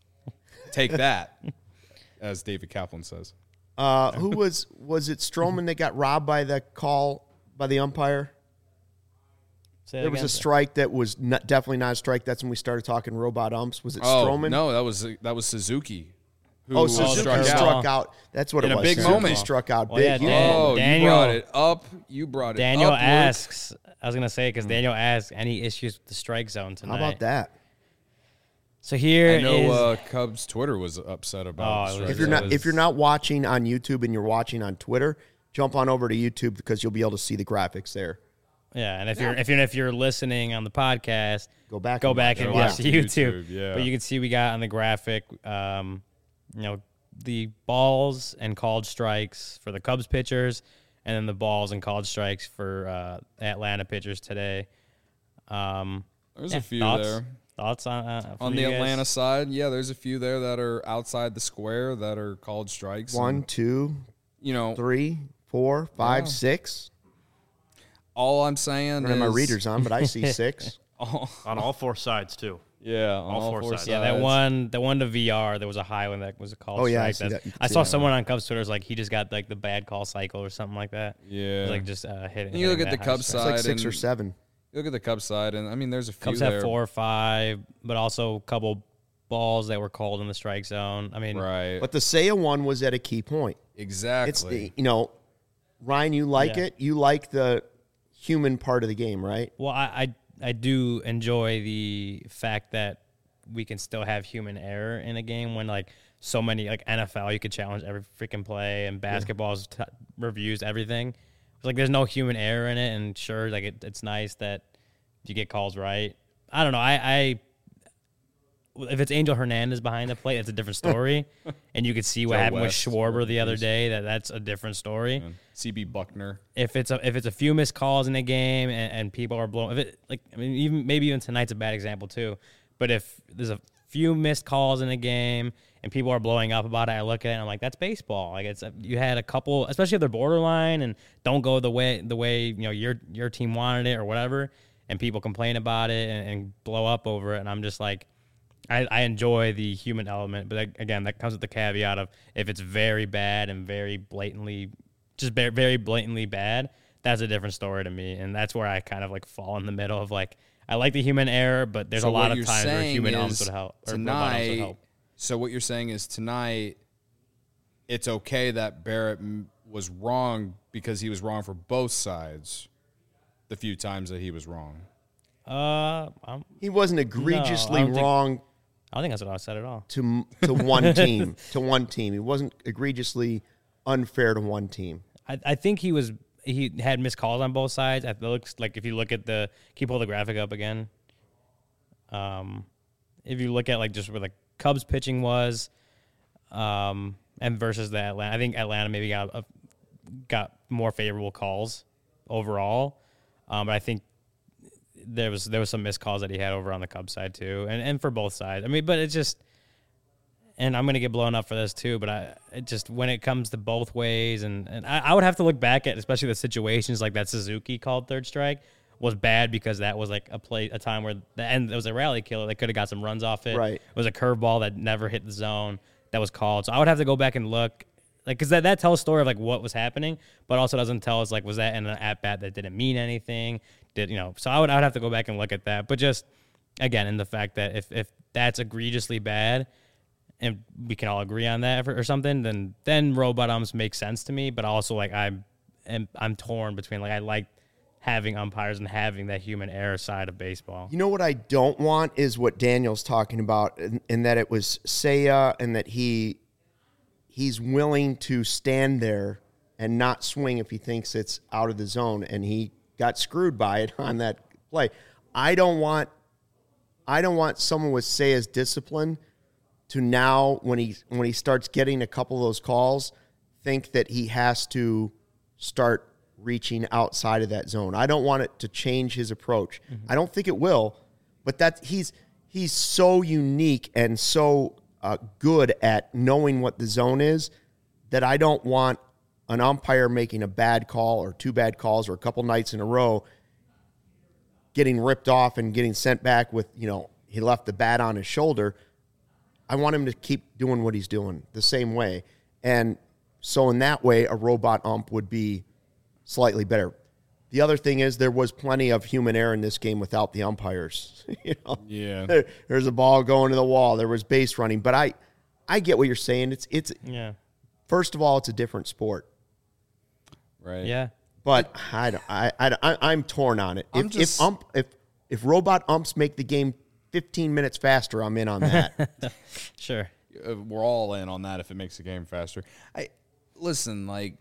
take that, as David Kaplan says. Uh, who was was it Stroman that got robbed by the call by the umpire? Say it There was again. a strike that was not, definitely not a strike. That's when we started talking robot umps. Was it Oh Stroman? no, that was that was Suzuki. Who Oh, uh, Suzuki struck struck, out. out. That's what In it a was. big Suzuki moment. struck out Well, big. yeah, Yeah. Dan- Oh, Daniel- you brought it up. You brought it Daniel up. Luke. asks, I was going to say, because Daniel asks, any issues with the strike zone tonight? How about that? So here I know is uh, Cubs Twitter was upset about Oh, it. it was- If you're it not was- if you're not watching on YouTube and you're watching on Twitter, jump on over to YouTube because you'll be able to see the graphics there. yeah, and if you're if you're if you're listening on the podcast, Go back. go and back watch and it. watch Yeah. the YouTube. YouTube, yeah. But you can see we got on the graphic, um, you know, the balls and called strikes for the Cubs pitchers, and then the balls and called strikes for uh, Atlanta pitchers today. Um, There's yeah, a few thoughts? there. Thoughts on uh, from On the you guys? Atlanta side, yeah, there's a few there that are outside the square that are called strikes. One, and, two, you know, three, four, five, Yeah. six. all I'm saying I don't is have my readers on, but I see six. all- On all four sides, too. yeah, on All all, four four sides. Yeah, that sides. one, the one to V R, there was a high one that was a call Oh, yeah, I strike. see That's- that. You can I see saw that. someone on Cubs Twitter was like he just got like the bad call cycle or something like that. It Yeah, was like just uh, hitting. And you look hitting at that the high Cubs strike. It's like side six or and- seven. you look at the Cubs side, and I mean, there's a few Cubs there. have four or five, but also a couple balls that were called in the strike zone. I mean, Right, But the Seiya one was at a key point. exactly. It's the, you know, Ryan, you like Yeah. it. You like the human part of the game, right? well, I, I I do enjoy the fact that we can still have human error in a game when like so many like N F L you could challenge every freaking play and basketball's t- reviews everything. It's like there's no human error in it, and sure, like it, it's nice that you get calls right. I don't know. I, I if it's Angel Hernandez behind the plate, it's a different story, and you could see what Joe happened West, with Schwarber the other reviews. day. That that's a different story. And C B Buckner. If it's a if it's a few missed calls in a game and, and people are blowing, if it like I mean even maybe even tonight's a bad example too, but if there's a few missed calls in a game and people are blowing up about it, I look at it and I'm like, that's baseball. Like it's you had a couple, especially if they're borderline and don't go the way the way you know your your team wanted it or whatever, and people complain about it and, and blow up over it, and I'm just like. I, I enjoy the human element, but that, again, that comes with the caveat of if it's very bad and very blatantly, just very, very blatantly bad, that's a different story to me, and that's where I kind of like fall in the middle of like I like the human error, but there's So a lot what of you're times where saying human is arms would help or robot arms would tonight. help. So what you're saying is tonight, it's okay that Barrett m- was wrong because he was wrong for both sides. The few times that he was wrong. Uh, I'm, He wasn't egregiously don't think- wrong I don't think that's what I said at all. to to one team. To one team, he wasn't egregiously unfair to one team. I, I think he was he had missed calls on both sides. It looks like if you look at the can you pull the graphic up again? Um, if you look at like just where the Cubs pitching was, um, and versus the Atlanta, I think Atlanta maybe got a, got more favorable calls overall. Um, but I think there was there was some missed calls that he had over on the Cubs side too, and and for both sides. I mean, but it's just. And I'm gonna get blown up for this too, but I it just when it comes to both ways, and, and I, I would have to look back at especially the situations like that Suzuki called third strike was bad because that was like a play a time where the end it was a rally killer that could have got some runs off it. Right. It was a curveball that never hit the zone that was called. So I would have to go back and look like because that, that tells a story of like what was happening, but also doesn't tell us like was that in an at bat that didn't mean anything? Did you know? So I would I would have to go back and look at that, but just again in the fact that if if that's egregiously bad. And we can all agree on that or, or something, then then robot umps make sense to me. But also, like I'm, am, I'm torn between like I like having umpires and having that human error side of baseball. You know what I don't want is what Daniel's talking about, in, in that it was Seiya and that he he's willing to stand there and not swing if he thinks it's out of the zone, and he got screwed by it on that play. I don't want I don't want someone with Seiya's discipline to now, when he when he starts getting a couple of those calls, think that he has to start reaching outside of that zone. I don't want it to change his approach. Mm-hmm. I don't think it will, but that he's he's so unique and so uh, good at knowing what the zone is that I don't want an umpire making a bad call or two bad calls or a couple nights in a row getting ripped off and getting sent back with, you know, he left the bat on his shoulder. I want him to keep doing what he's doing the same way. And so in that way, a robot ump would be slightly better. The other thing is there was plenty of human error in this game without the umpires. you know? Yeah. There, there's a ball going to the wall. There was base running. But I, I get what you're saying. It's it's Yeah. First of all, it's a different sport. Right. Yeah. But I, don't- I, I, I, I'm torn on it. I'm If, just- if ump if if robot umps make the game fifteen minutes faster, I'm in on that. Sure. Uh, We're all in on that if it makes the game faster. I listen, like,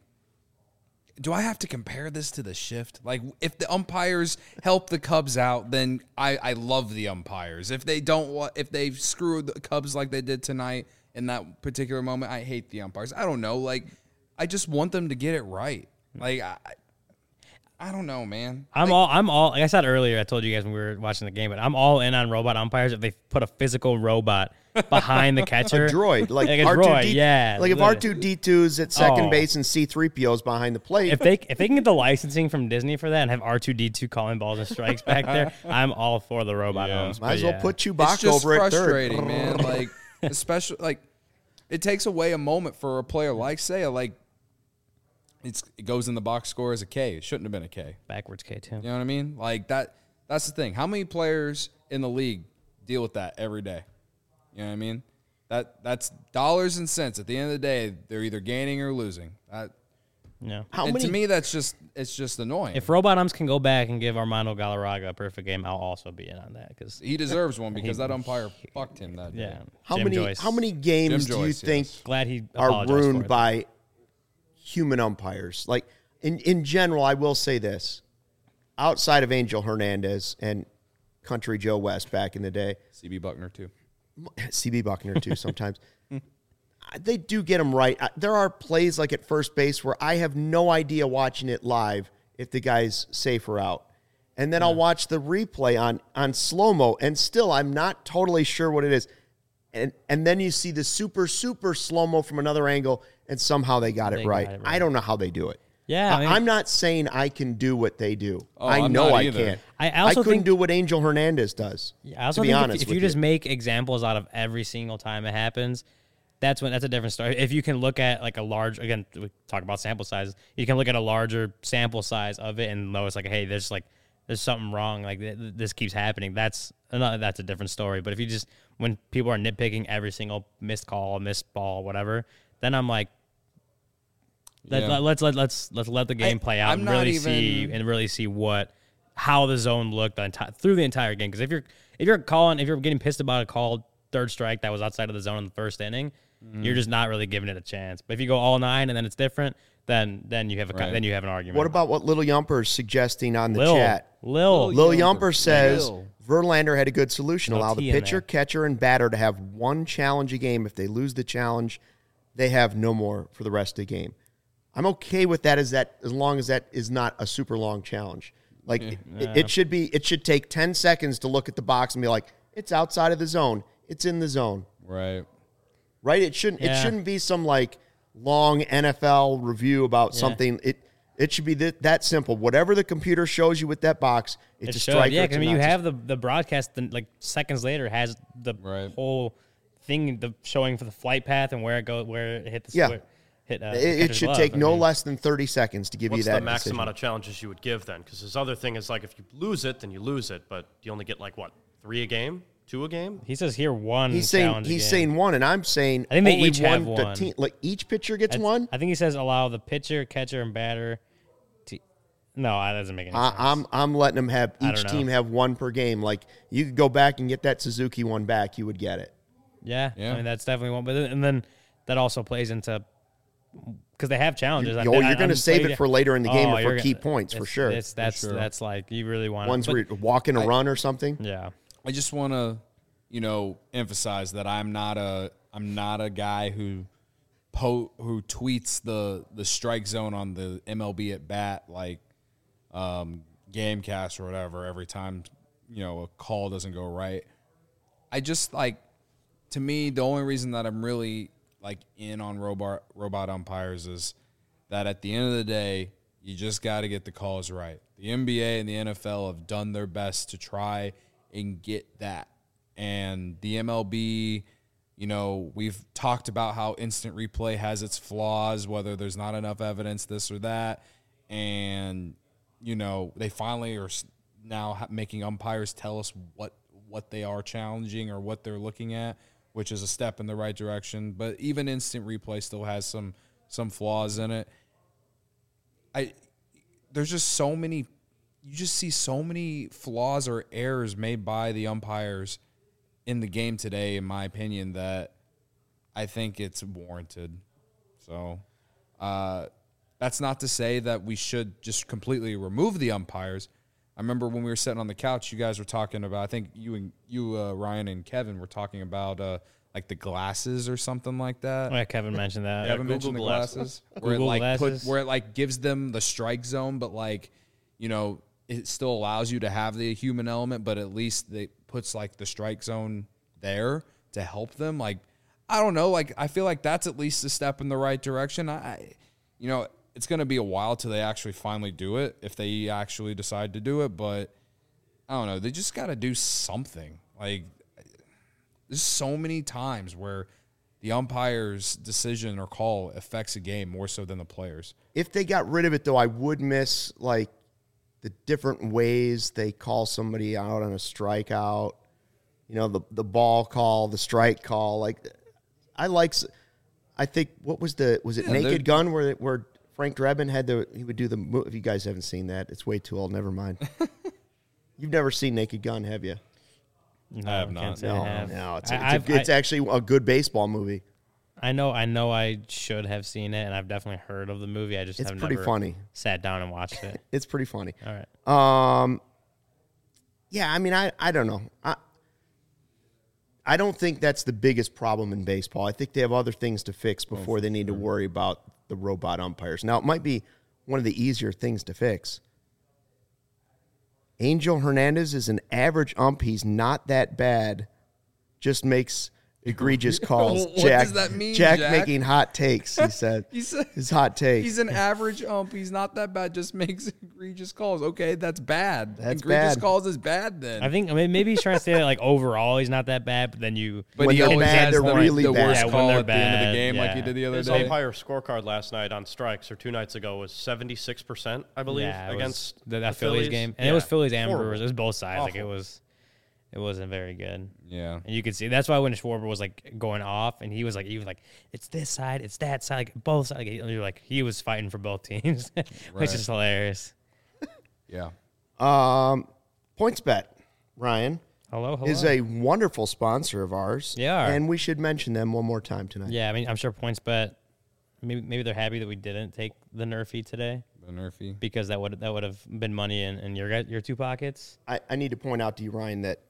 do I have to compare this to the shift? Like, if the umpires help the Cubs out, then I, I love the umpires. If they don't, wa- if they screw the Cubs like they did tonight in that particular moment, I hate the umpires. I don't know. Like, I just want them to get it right. Like, I, I don't know, man. I'm Like, all I'm all like I said earlier, I told you guys when we were watching the game, but I'm all in on robot umpires if they put a physical robot behind the catcher. A droid, like, Like a R two droid, D two. yeah, Like if literally. R two D two's at second Oh. base and C three P O's behind the plate. If they if they can get the licensing from Disney for that and have R two D two calling balls and strikes back there, I'm all for the robot Yeah. umps. Might but as well yeah. put it's Chewbacca just over at third. frustrating, man. Like, especially, like, it takes away a moment for a player like Seiya. Like, it's it goes in the box score as a K. It shouldn't have been a K. backwards K two. You know what I mean? Like that. That's the thing. How many players in the league deal with that every day? You know what I mean? That that's dollars and cents. At the end of the day, they're either gaining or losing. That, Yeah. How and many? to me, that's just it's just annoying. If robot umps can go back and give Armando Galarraga a perfect game, I'll also be in on that because he deserves one because that umpire fucked him that day. yeah. how Jim many? Joyce. How many games Jim do you Joyce, think yes. Glad he are apologized for ruined it. by human umpires? Like in in general, I will say this: outside of Angel Hernandez and Country Joe West back in the day, C B Buckner too. C B Buckner too sometimes. They do get them right. I- There are plays like at first base where I have no idea watching it live if the guy's safe or out. And then I'll watch the replay on, on slow-mo, and still I'm not totally sure what it is. And and then you see the super, super slow-mo from another angle, and somehow they got, They it, got right. it I right. don't know how they do it. Yeah, I I mean- I'm not saying I can do what they do. Oh, I I'm know not I either. can't. I also couldn't think- do what Angel Hernandez does, I also to be think if- honest if, with you just make examples out of every single time it happens, that's when that's a different story. If you can look at like a large, again, we talk about sample sizes. You can look at a larger sample size of it and notice like, hey, there's like there's something wrong. Like th- th- this keeps happening. That's another, that's a different story. But if you just when people are nitpicking every single missed call, missed ball, whatever, then I'm like, let, Yeah. let, let's let let's let's let the game I- play out I'm and not really even- see and really see what how the zone looked the enti- through the entire game. Because if you're if you're calling if you're getting pissed about a called third strike that was outside of the zone in the first inning, Mm-hmm. you're just not really giving it a chance. But if you go all nine and then it's different, then then you have a co- Right. then you have an argument. What about what Little Yumper's suggesting on the Lil? chat? Lil, Lil- Lil Yumper. Yumper says Lil. Verlander had a good solution. No Allow T the in pitcher, there. catcher, and batter to have one challenge a game. If they lose the challenge, they have no more for the rest of the game. I'm okay with that as that as long as that is not a super long challenge. Like it, it should be it should take ten seconds to look at the box and be like, it's outside of the zone. It's in the zone. Right. Right? It shouldn't Yeah. it shouldn't be some like long N F L review about Yeah. something. It it should be that, that simple. Whatever the computer shows you with that box, it's it a should. strike. Yeah, or it's because a I mean, you not. have the the broadcast then like seconds later has the Right. whole thing the showing for the flight path and where it go where it hit the Yeah. square, hit. Uh, the It, it catcher's should glove. take I no mean, less than thirty seconds to give What's you that the max decision. amount of challenges you would give then? Because his other thing is like if you lose it, then you lose it, but you only get like what three a game, two a game. He says here one. He's saying challenge a he's game. saying one, and I'm saying I think they only each one. have the one. team- like each pitcher gets That's- one. I think he says allow the pitcher, catcher, and batter. To, no, that doesn't make any I, sense. I'm I'm letting them have I each don't know. team have one per game. Like you could go back and get that Suzuki one back, you would get it. Yeah, Yeah. I mean that's definitely one. But then, and then that also plays into because they have challenges. You- I- oh, I- you're gonna I'm save played- it for later in the game Oh, or you're for gonna- key points, for it's- sure. It's, that's sure. that's like you really want Ones but, where you're walking a run or something. yeah. I just want to, you know, emphasize that I'm not a I'm not a guy who po who tweets the the strike zone on the M L B at bat like um, Gamecast or whatever every time you know a call doesn't go right. I just like to me the only reason that I'm really like in on robot robot umpires is that at the end of the day you just got to get the calls right. The N B A and the N F L have done their best to try and get that. And the M L B, you know, we've talked about how instant replay has its flaws, whether there's not enough evidence, this or that. And, you know, they finally are s- now ha- making umpires tell us what, what they are challenging or what they're looking at, which is a step in the right direction. But even instant replay still has some some flaws in it. I there's just so many you just see so many flaws or errors made by the umpires in the game today, in my opinion, that I think it's warranted. So uh, that's not to say that we should just completely remove the umpires. I remember when we were sitting on the couch, you guys were talking about, I think you and you, uh, Ryan and Kevin were talking about uh, like the glasses or something like that. Oh, yeah, Kevin mentioned that. Kevin Google mentioned the glasses. glasses. Where Google it like glasses. put, where it like gives them the strike zone, but like, you know, it still allows you to have the human element, but at least it puts like the strike zone there to help them. Like, I don't know. Like, I feel like that's at least a step in the right direction. I, you know, it's going to be a while till they actually finally do it, if they actually decide to do it. But I don't know. They just got to do something. Like, there's so many times where the umpire's decision or call affects a game more so than the players. If they got rid of it, though, I would miss, like, the different ways they call somebody out on a strikeout. You know, the the ball call, the strike call. Like, I like, I think, what was the, was it Yeah, they're- Naked Gun where where Frank Drebin had the, he would do the, mo- if you guys haven't seen that, it's way too old, never mind. You've never seen Naked Gun, have you? No, I have can't not. say I No, have. no, it's, I- a, it's, I've- a, it's I- actually a good baseball movie. I know, I know, I should have seen it, and I've definitely heard of the movie. I just It's have pretty never funny. sat down and watched it. It's pretty funny. All right. Um, yeah, I mean, I, I don't know. I, I don't think that's the biggest problem in baseball. I think they have other things to fix before they need to worry about the robot umpires. Now, it might be one of the easier things to fix. Angel Hernandez is an average ump. He's not that bad. Just makes egregious calls. What Jack, does that mean, Jack, Jack? making hot takes, he said. He said His hot take. he's an average ump. He's not that bad. Just makes egregious calls. Okay, that's bad. That's egregious bad. calls is bad then. I think I mean, maybe he's trying to say that like overall he's not that bad, but then you. but when he they're always bad, has they're the, really the bad. worst Yeah, when call they're at the end of bad, the game, like yeah. he did the other His day. umpire scorecard last night on strikes, or two nights ago, was seventy-six percent, I believe, Yeah, it was against the, that the Phillies, game, and Yeah. it was Phillies and Horrible. Brewers. It was both sides. Like it Awful. was, it wasn't very good. Yeah. And you could see that's why when Schwarber was like going off, and he was like, he was like, it's this side, it's that side, like both sides. Like, you're like, he was fighting for both teams, which Right. is hilarious. Yeah. Um, PointsBet, Ryan, Hello, hello. is a wonderful sponsor of ours. They are. And we should mention them one more time tonight. Yeah, I mean, I'm sure PointsBet. Maybe maybe they're happy that we didn't take the Nerfy today The Nerfy. because that would that would have been money in, in your your two pockets. I, I need to point out to you, Ryan, that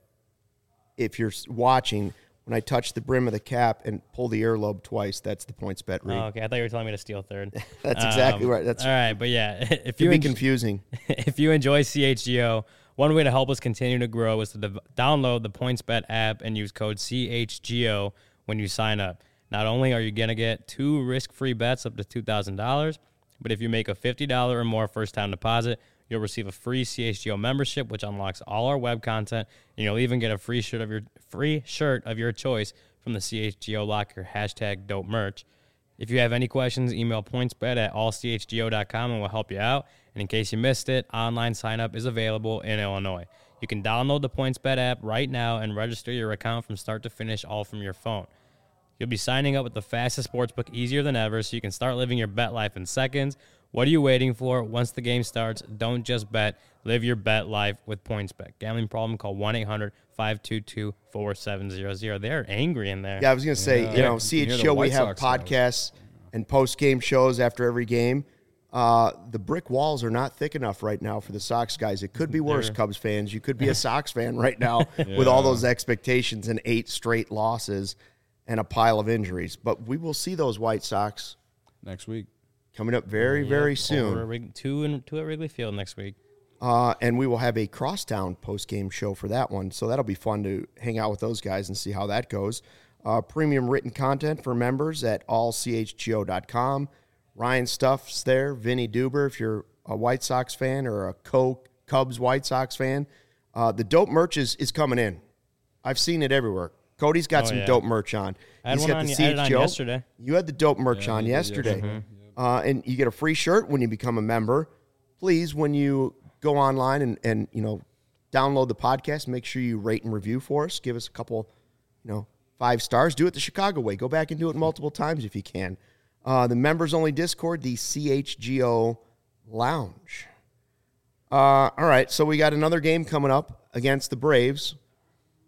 if you're s- watching, when I touch the brim of the cap and pull the earlobe twice, that's the PointsBet read. Oh, okay, I thought you were telling me to steal third. That's exactly right. That's all right, but yeah, if Could you be en- confusing. if you enjoy C H G O, one way to help us continue to grow is to dev- download the PointsBet app and use code C H G O when you sign up. Not only are you going to get two risk-free bets up to two thousand dollars, but if you make a fifty dollars or more first-time deposit, you'll receive a free C H G O membership, which unlocks all our web content, and you'll even get a free shirt of your free shirt of your choice from the C H G O locker, hashtag dope merch. If you have any questions, email pointsbet at all c h g o dot com and we'll help you out. And in case you missed it, online sign-up is available in Illinois. You can download the PointsBet app right now and register your account from start to finish, all from your phone. You'll be signing up with the fastest sportsbook easier than ever, so you can start living your bet life in seconds. What are you waiting for? Once the game starts, don't just bet. Live your bet life with PointsBet. Gambling problem? Call one eight hundred five two two four seven zero zero. They're angry in there. Yeah, I was going to say, Yeah. you know, You C hear H the G O, we White have Sox fans. podcasts and post-game shows after every game. Uh, the brick walls are not thick enough right now for the Sox guys. It could be worse, They're- Cubs fans. You could be a Sox fan right now with all those expectations and eight straight losses and a pile of injuries. But we will see those White Sox Next week. coming up very, Yep, very over at soon. Wrig- two, and, two at Wrigley Field next week. Uh, and we will have a crosstown post-game show for that one. So that'll be fun to hang out with those guys and see how that goes. Uh, premium written content for members at all c h g o dot com. Ryan Stuff's there. Vinny Duber, if you're a White Sox fan or a Co Cubs White Sox fan. Uh, the dope merch is, is coming in. I've seen it everywhere. Cody's got Oh, some yeah. dope merch on. I had He's one got on- the I had it on C H G O. yesterday. You had the dope merch Yeah, on you did yesterday. yesterday. Uh, and you get a free shirt when you become a member. Please, when you go online and, and you know, download the podcast, make sure you rate and review for us. Give us a couple, you know, five stars. Do it the Chicago way. Go back and do it multiple times if you can. Uh, the members-only Discord, the C H G O Lounge. Uh, all right, so we got another game coming up against the Braves.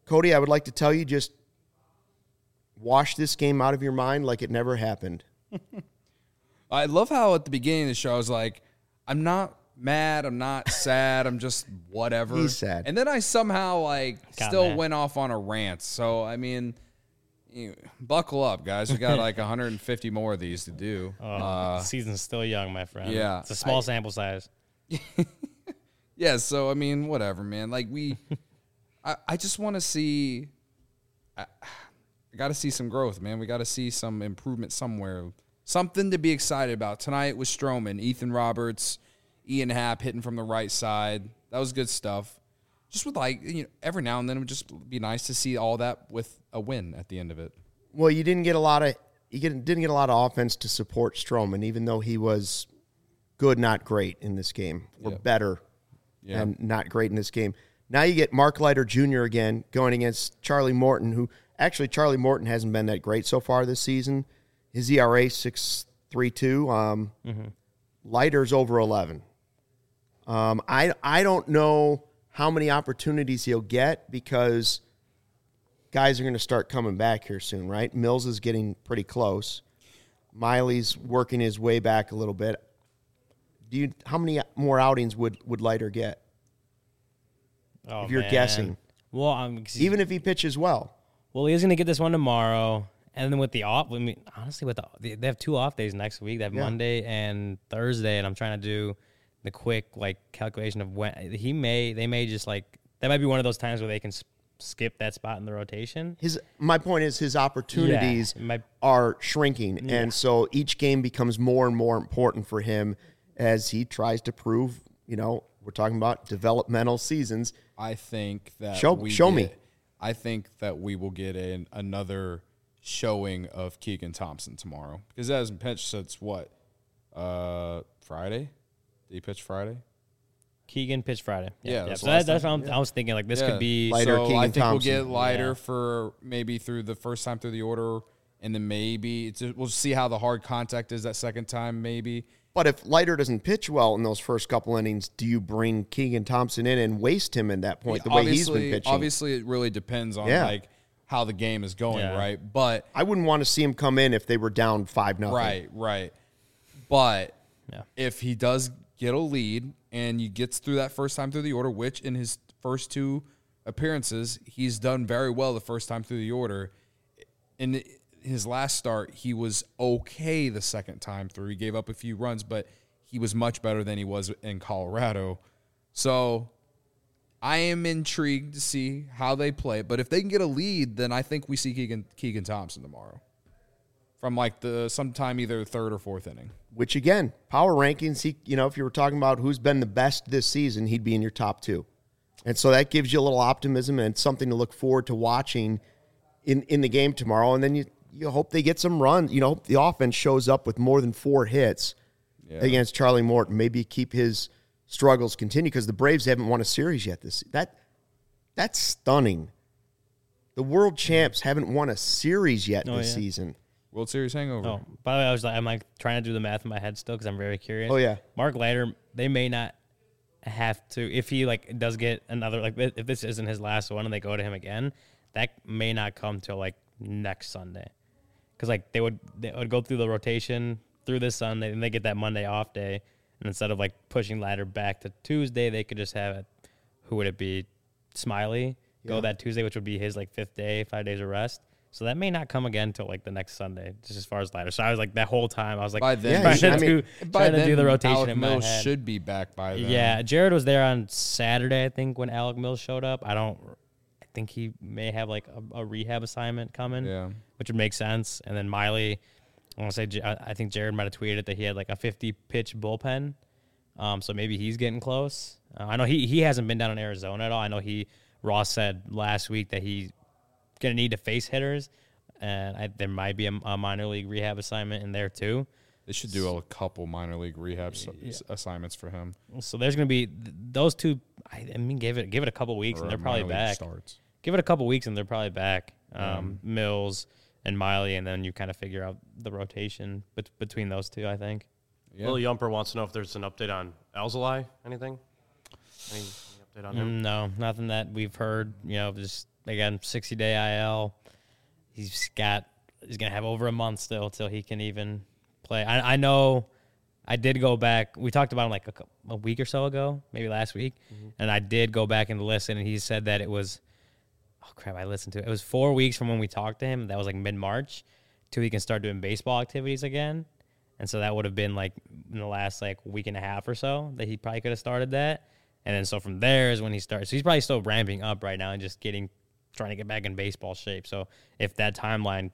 Cody, I would like to tell you, just wash this game out of your mind like it never happened. I love how at the beginning of the show I was like, I'm not mad, I'm not sad, I'm just whatever. He's sad. And then I somehow like Got still mad. went off on a rant. So I mean, you, buckle up, guys. We got like one hundred fifty more of these to do. Oh, Uh, the season's still young, my friend. yeah, It's a small I- sample size. yeah. So I mean, whatever, man. Like we, I, I just want to see. I, I got to see some growth, man. We got to see some improvement somewhere. Something to be excited about. Tonight was Stroman, Ethan Roberts, Ian Happ hitting from the right side. That was good stuff. Just with like, you know, every now and then it would just be nice to see all that with a win at the end of it. Well, you didn't get a lot of you get, didn't get a lot of offense to support Stroman, even though he was good, not great in this game, or Yeah. better Yeah. and not great in this game. Now you get Mark Leiter Junior again going against Charlie Morton, who actually Charlie Morton hasn't been that great so far this season. His E R A six point three two. Um, Mm-hmm. Leiter's over eleven. Um, I I don't know how many opportunities he'll get because guys are going to start coming back here soon, right? Mills is getting pretty close. Miley's working his way back a little bit. Do you? How many more outings would would Leiter get? Oh, If you're man. guessing. Well, I'm Even if he pitches well. well, he's gonna get this one tomorrow, and then with the off. I mean, honestly, with the they have two off days next week. They have Yeah. Monday and Thursday, and I'm trying to do the quick like calculation of when he may. They may just like that might be one of those times where they can s- skip that spot in the rotation. His my point is his opportunities Yeah, it might- are shrinking, and so each game becomes more and more important for him as he tries to prove. You know, we're talking about developmental seasons. I think that Show- we show get- me. I think that we will get an, another showing of Keegan Thompson tomorrow because that hasn't pitched since what uh, Friday. Did he pitch Friday? Keegan pitched Friday. Yeah, that's So the that, last that's what time. I'm, I was thinking. Like this Yeah. could be. Leiter, so Keegan I think Thompson. we'll get lighter Yeah. for maybe through the first time through the order, and then maybe it's, we'll see how the hard contact is that second time. Maybe But if Leiter doesn't pitch well in those first couple innings, do you bring Keegan Thompson in and waste him at that point the way he's been Obviously- pitching? Obviously, it really depends on Yeah. like how the game is going, Yeah. right? But I wouldn't want to see him come in if they were down five nothing. right, right. But Yeah. if he does get a lead and he gets through that first time through the order, which in his first two appearances he's done very well the first time through the order. In his last start, he was okay the second time through. He gave up a few runs, but he was much better than he was in Colorado. So I am intrigued to see how they play. But if they can get a lead, then I think we see Keegan, Keegan Thompson tomorrow from like the sometime either third or fourth inning. Which again, power rankings, he you know, if you were talking about who's been the best this season, he'd be in your top two. And so that gives you a little optimism and something to look forward to watching in, in the game tomorrow. And then you you hope they get some runs. You know, the offense shows up with more than four hits Yeah. against Charlie Morton. Maybe keep his struggles continue because the Braves haven't won a series yet. This that that's stunning. The world champs haven't won a series yet Oh, this yeah. season. World Series hangover. Oh, by the way, I was like, I'm like trying to do the math in my head still because I'm very curious. Oh, yeah. Mark Leiter, they may not have to if he like does get another like if this isn't his last one and they go to him again, that may not come till like next Sunday, because like they would they would go through the rotation through this Sunday and they get that Monday off day, and instead of like pushing Leiter back to Tuesday, they could just have it. Who would it be? Smiley go Yeah. that Tuesday, which would be his like fifth day, five days of rest. So that may not come again till like the next Sunday, just as far as Leiter. So I was like that whole time I was like By then, Yeah, trying I to mean, do, by trying then to do the rotation Alec in my Mills head. should be back by then. Yeah, Jared was there on Saturday, I think, when Alec Mills showed up. I don't. I think he may have like a, a rehab assignment coming, Yeah. which would make sense. And then Miley, I want to say, J- I I think Jared might have tweeted that he had like a fifty pitch bullpen, um, so maybe he's getting close. Uh, I know he he hasn't been down in Arizona at all. I know he Ross said last week that he's gonna need to face hitters, and I, there might be a, a minor league rehab assignment in there too. They should do a couple minor league rehab s- assignments for him. So there's going to be th- those two. I, I mean, give it give it a couple weeks, or and they're minor probably league back. Starts. Give it a couple weeks, and they're probably back. Um, Mills and Miley, and then you kind of figure out the rotation bet- between those two. I think. Yeah. Lil Yumper wants to know if there's an update on Alzolay. Anything? Any, any update on him? Mm, no, nothing that we've heard. You know, just again, sixty day I L. He's got he's gonna have over a month still till he can even play. I, I know. I did go back. We talked about him like a, a week or so ago, maybe last week, mm-hmm. and I did go back and listen. And he said that it was, oh crap, I listened to it. It was four weeks from when we talked to him. That was like mid March, till he can start doing baseball activities again. And so that would have been like in the last like week and a half or so that he probably could have started that. And then so from there is when he starts. So he's probably still ramping up right now and just getting, trying to get back in baseball shape. So if that timeline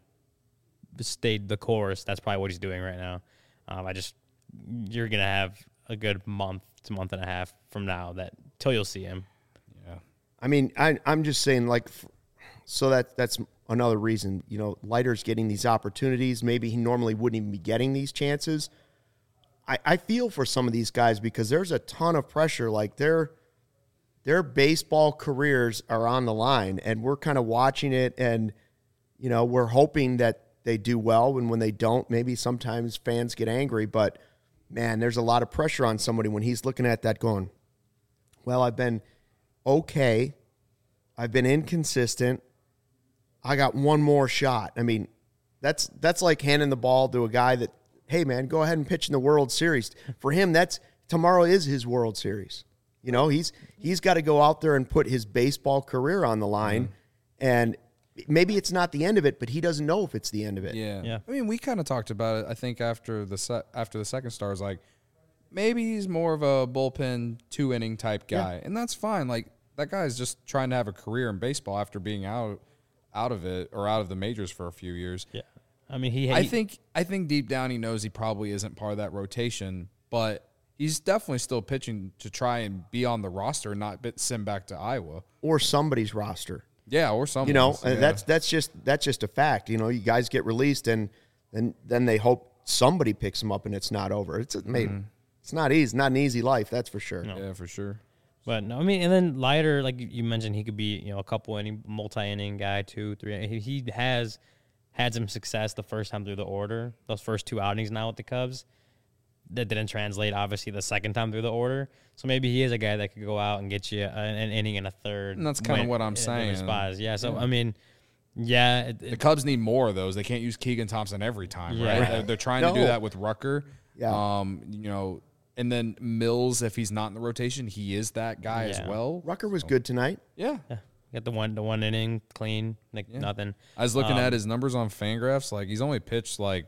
stayed the course, that's probably what he's doing right now. Um, I just, you're going to have a good month to month and a half from now that till you'll see him. Yeah. I mean, I, I'm just saying, like, so that that's another reason, you know, Leiter's getting these opportunities. Maybe he normally wouldn't even be getting these chances. I, I feel for some of these guys because there's a ton of pressure. Like, their their baseball careers are on the line, and we're kind of watching it, and, you know, we're hoping that they do well. And when they don't, maybe sometimes fans get angry, but man, there's a lot of pressure on somebody when he's looking at that going, well, I've been okay. I've been inconsistent. I got one more shot. I mean, that's that's like handing the ball to a guy that, hey, man, go ahead and pitch in the World Series. For him, that's tomorrow is his World Series. You know, he's he's got to go out there and put his baseball career on the line. Mm-hmm. And maybe it's not the end of it, but he doesn't know if it's the end of it. Yeah. Yeah. I mean, we kind of talked about it, I think, after the se- after the second star. Is like, maybe he's more of a bullpen two-inning type guy. Yeah. And that's fine. Like, that guy's just trying to have a career in baseball after being out out of it or out of the majors for a few years. Yeah. I mean, he, he I think I think deep down he knows he probably isn't part of that rotation, but he's definitely still pitching to try and be on the roster and not send back to Iowa. Or somebody's roster. Yeah, or something. You know, yeah. that's that's just that's just a fact. You know, you guys get released, and then then they hope somebody picks them up, and it's not over. It's a, maybe mm-hmm. it's not easy, not an easy life, that's for sure. No. Yeah, for sure. But no, I mean, and then Leiter, like you mentioned, he could be, you know, a couple inning, multi-inning guy, two, three. He, he has had some success the first time through the order. Those first two outings now with the Cubs, that didn't translate obviously the second time through the order. So maybe he is a guy that could go out and get you an, an inning and a third. And that's kind of what I'm saying. Spots. Yeah. So yeah. I mean, yeah, it, the Cubs need more of those. They can't use Keegan Thompson every time, yeah. right? They're, they're trying no. to do that with Rucker. Yeah. Um, you know. And then Mills, if he's not in the rotation, he is that guy yeah. as well. Rucker was so. good tonight. Yeah. yeah. Got the one the one inning, clean, like yeah. nothing. I was looking um, at his numbers on Fangraphs. Like, he's only pitched, like,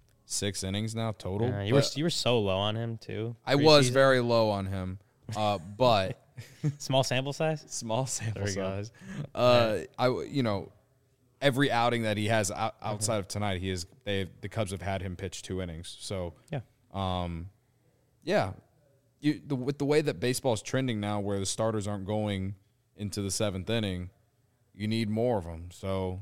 six innings now total. Uh, you were you were so low on him, too. I was very low on him. Uh, but. Small sample size? Small sample size. Uh, I, you know, every outing that he has out, outside mm-hmm. of tonight, he is, they the Cubs have had him pitch two innings. So, yeah. Um, Yeah, you, the, with the way that baseball is trending now, where the starters aren't going into the seventh inning, you need more of them. So,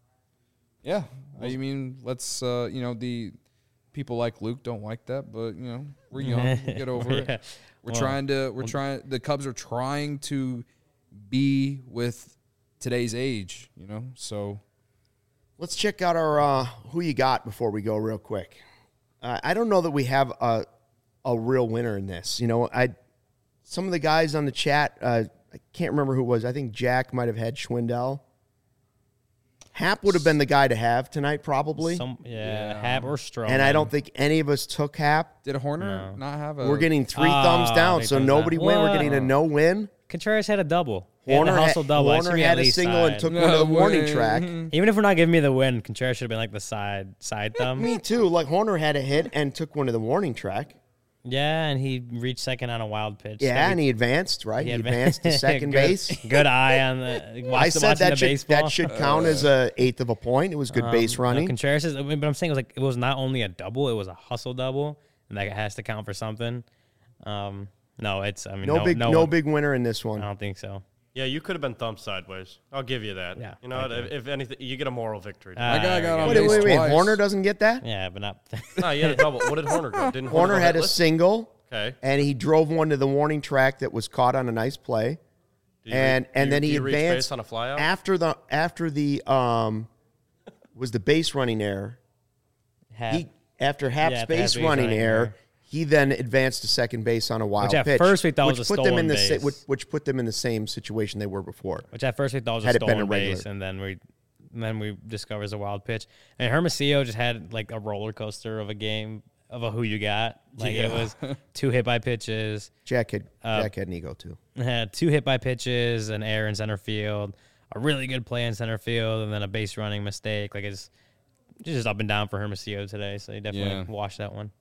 yeah, I mean, let's uh, you know, the people like Luke don't like that, but you know, we're young, we'll get over yeah. it. We're well, trying to, we're well, trying. The Cubs are trying to be with today's age, you know. So, let's check out our uh, who you got before we go real quick. Uh, I don't know that we have a. a real winner in this. You know, I some of the guys on the chat, uh, I can't remember who it was. I think Jack might have had Schwindel. Hap would have been the guy to have tonight, probably. Some, yeah, yeah, Hap or Stroman. And I don't think any of us took Hap. Did Horner no. not have a... We're getting three oh, thumbs down, so nobody win. We're getting a no win. Contreras had a double. Horner had hustle had, double. Horner had a single side. and took no one to the way. warning track. Even if we're not giving me the win, Contreras should have been like the side side thumb. Me too. Like, Horner had a hit and took one to the warning track. Yeah, and he reached second on a wild pitch. Yeah, and he advanced, right? He, he advanced to second good, base. Good eye on the watch, I said the that should, baseball. that should count uh, as a eighth of a point. It was good um, base running. No, Contreras is, but I'm saying it was like it was not only a double, it was a hustle double, and that has to count for something. Um, no, it's I mean no, no big no, no one, big winner in this one. I don't think so. Yeah, you could have been thumped sideways. I'll give you that. Yeah, you know, if, if anything, you get a moral victory. Uh, My guy got on Wait, base wait, wait. twice. Horner doesn't get that? Yeah, but not. No, you had a double. What did Horner go? Didn't Horner Horner had a hitless? single. Okay. And he drove one to the warning track that was caught on a nice play. Did and re- and you, then he you reach advanced base on a flyout? after the after the um was the base running error. Hap, He after Hap's Yeah, after base Hap's base running running error, error. He then advanced to second base on a wild Which at pitch, first we thought which was a put them in stolen the sa- base. which, which put them in the same situation they were before. Which at first we thought was Had a it been a stolen regular. base, and then we and then we discovered it's a wild pitch. And Hermosillo just had like a roller coaster of a game of a who you got. Like it Yeah. was two hit by pitches, Jack had Uh, Jack had an ego too. had two hit by pitches, an error in center field, a really good play in center field, and then a base running mistake. Like it's just up and down for Hermosillo today. So you definitely Yeah. watch that one.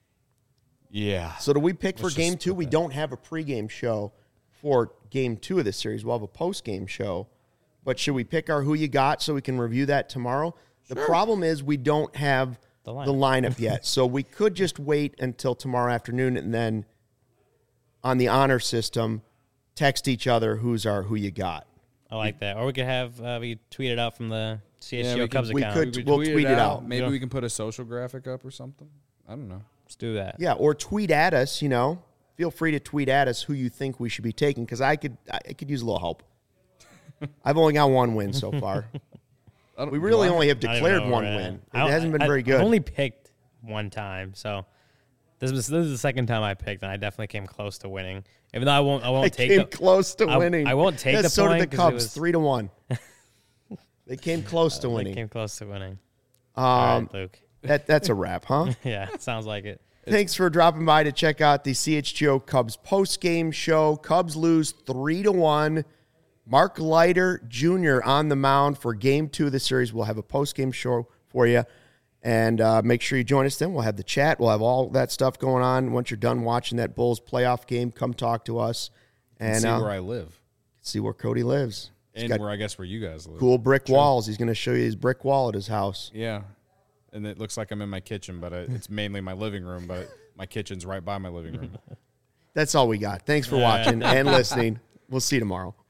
Yeah. So do we pick for Let's game just two? put We that. don't have a pregame show for game two of this series. We'll have a postgame show. But should we pick our who you got so we can review that tomorrow? The problem is we don't have The the lineup. lineup yet. So we could just wait until tomorrow afternoon and then on the honor system text each other who's our who you got. I like that. Or we could have uh, we tweet it out from the C H G O Yeah, we can- Cubs we account. could- We We'll tweet it out. Maybe Yeah. we can put a social graphic up or something. I don't know. Let's do that. Yeah, or tweet at us, you know. Feel free to tweet at us who you think we should be taking because I could I could use a little help. I've only got one win so far. I don't- We do really I? only have I don't even declared know one where we're win. at. It I- hasn't been I- very good. I've only picked one time, so this was this is the second time I picked, and I definitely came close to winning. Even though I won't, I won't I take came the, close to I- winning. I won't take Yeah, the so point did the 'cause it Cubs, was- three to one. They came close to they winning. came close to winning. All Um, right, Luke. that that's a wrap, huh? Yeah, sounds like it. Thanks for dropping by to check out the C H G O Cubs post game show. Cubs lose three to one. Mark Leiter Junior on the mound for game two of the series. We'll have a post game show for you. And uh, make sure you join us then. We'll have the chat. We'll have all that stuff going on. Once you're done watching that Bulls playoff game, come talk to us and see uh, where I live see where Cody lives. He's and got where I guess where you guys live. cool brick walls. He's going to show you his brick wall at his house. Yeah, and it looks like I'm in my kitchen, but I, it's mainly my living room. But my kitchen's right by my living room. That's all we got. Thanks for watching and listening. We'll see you tomorrow.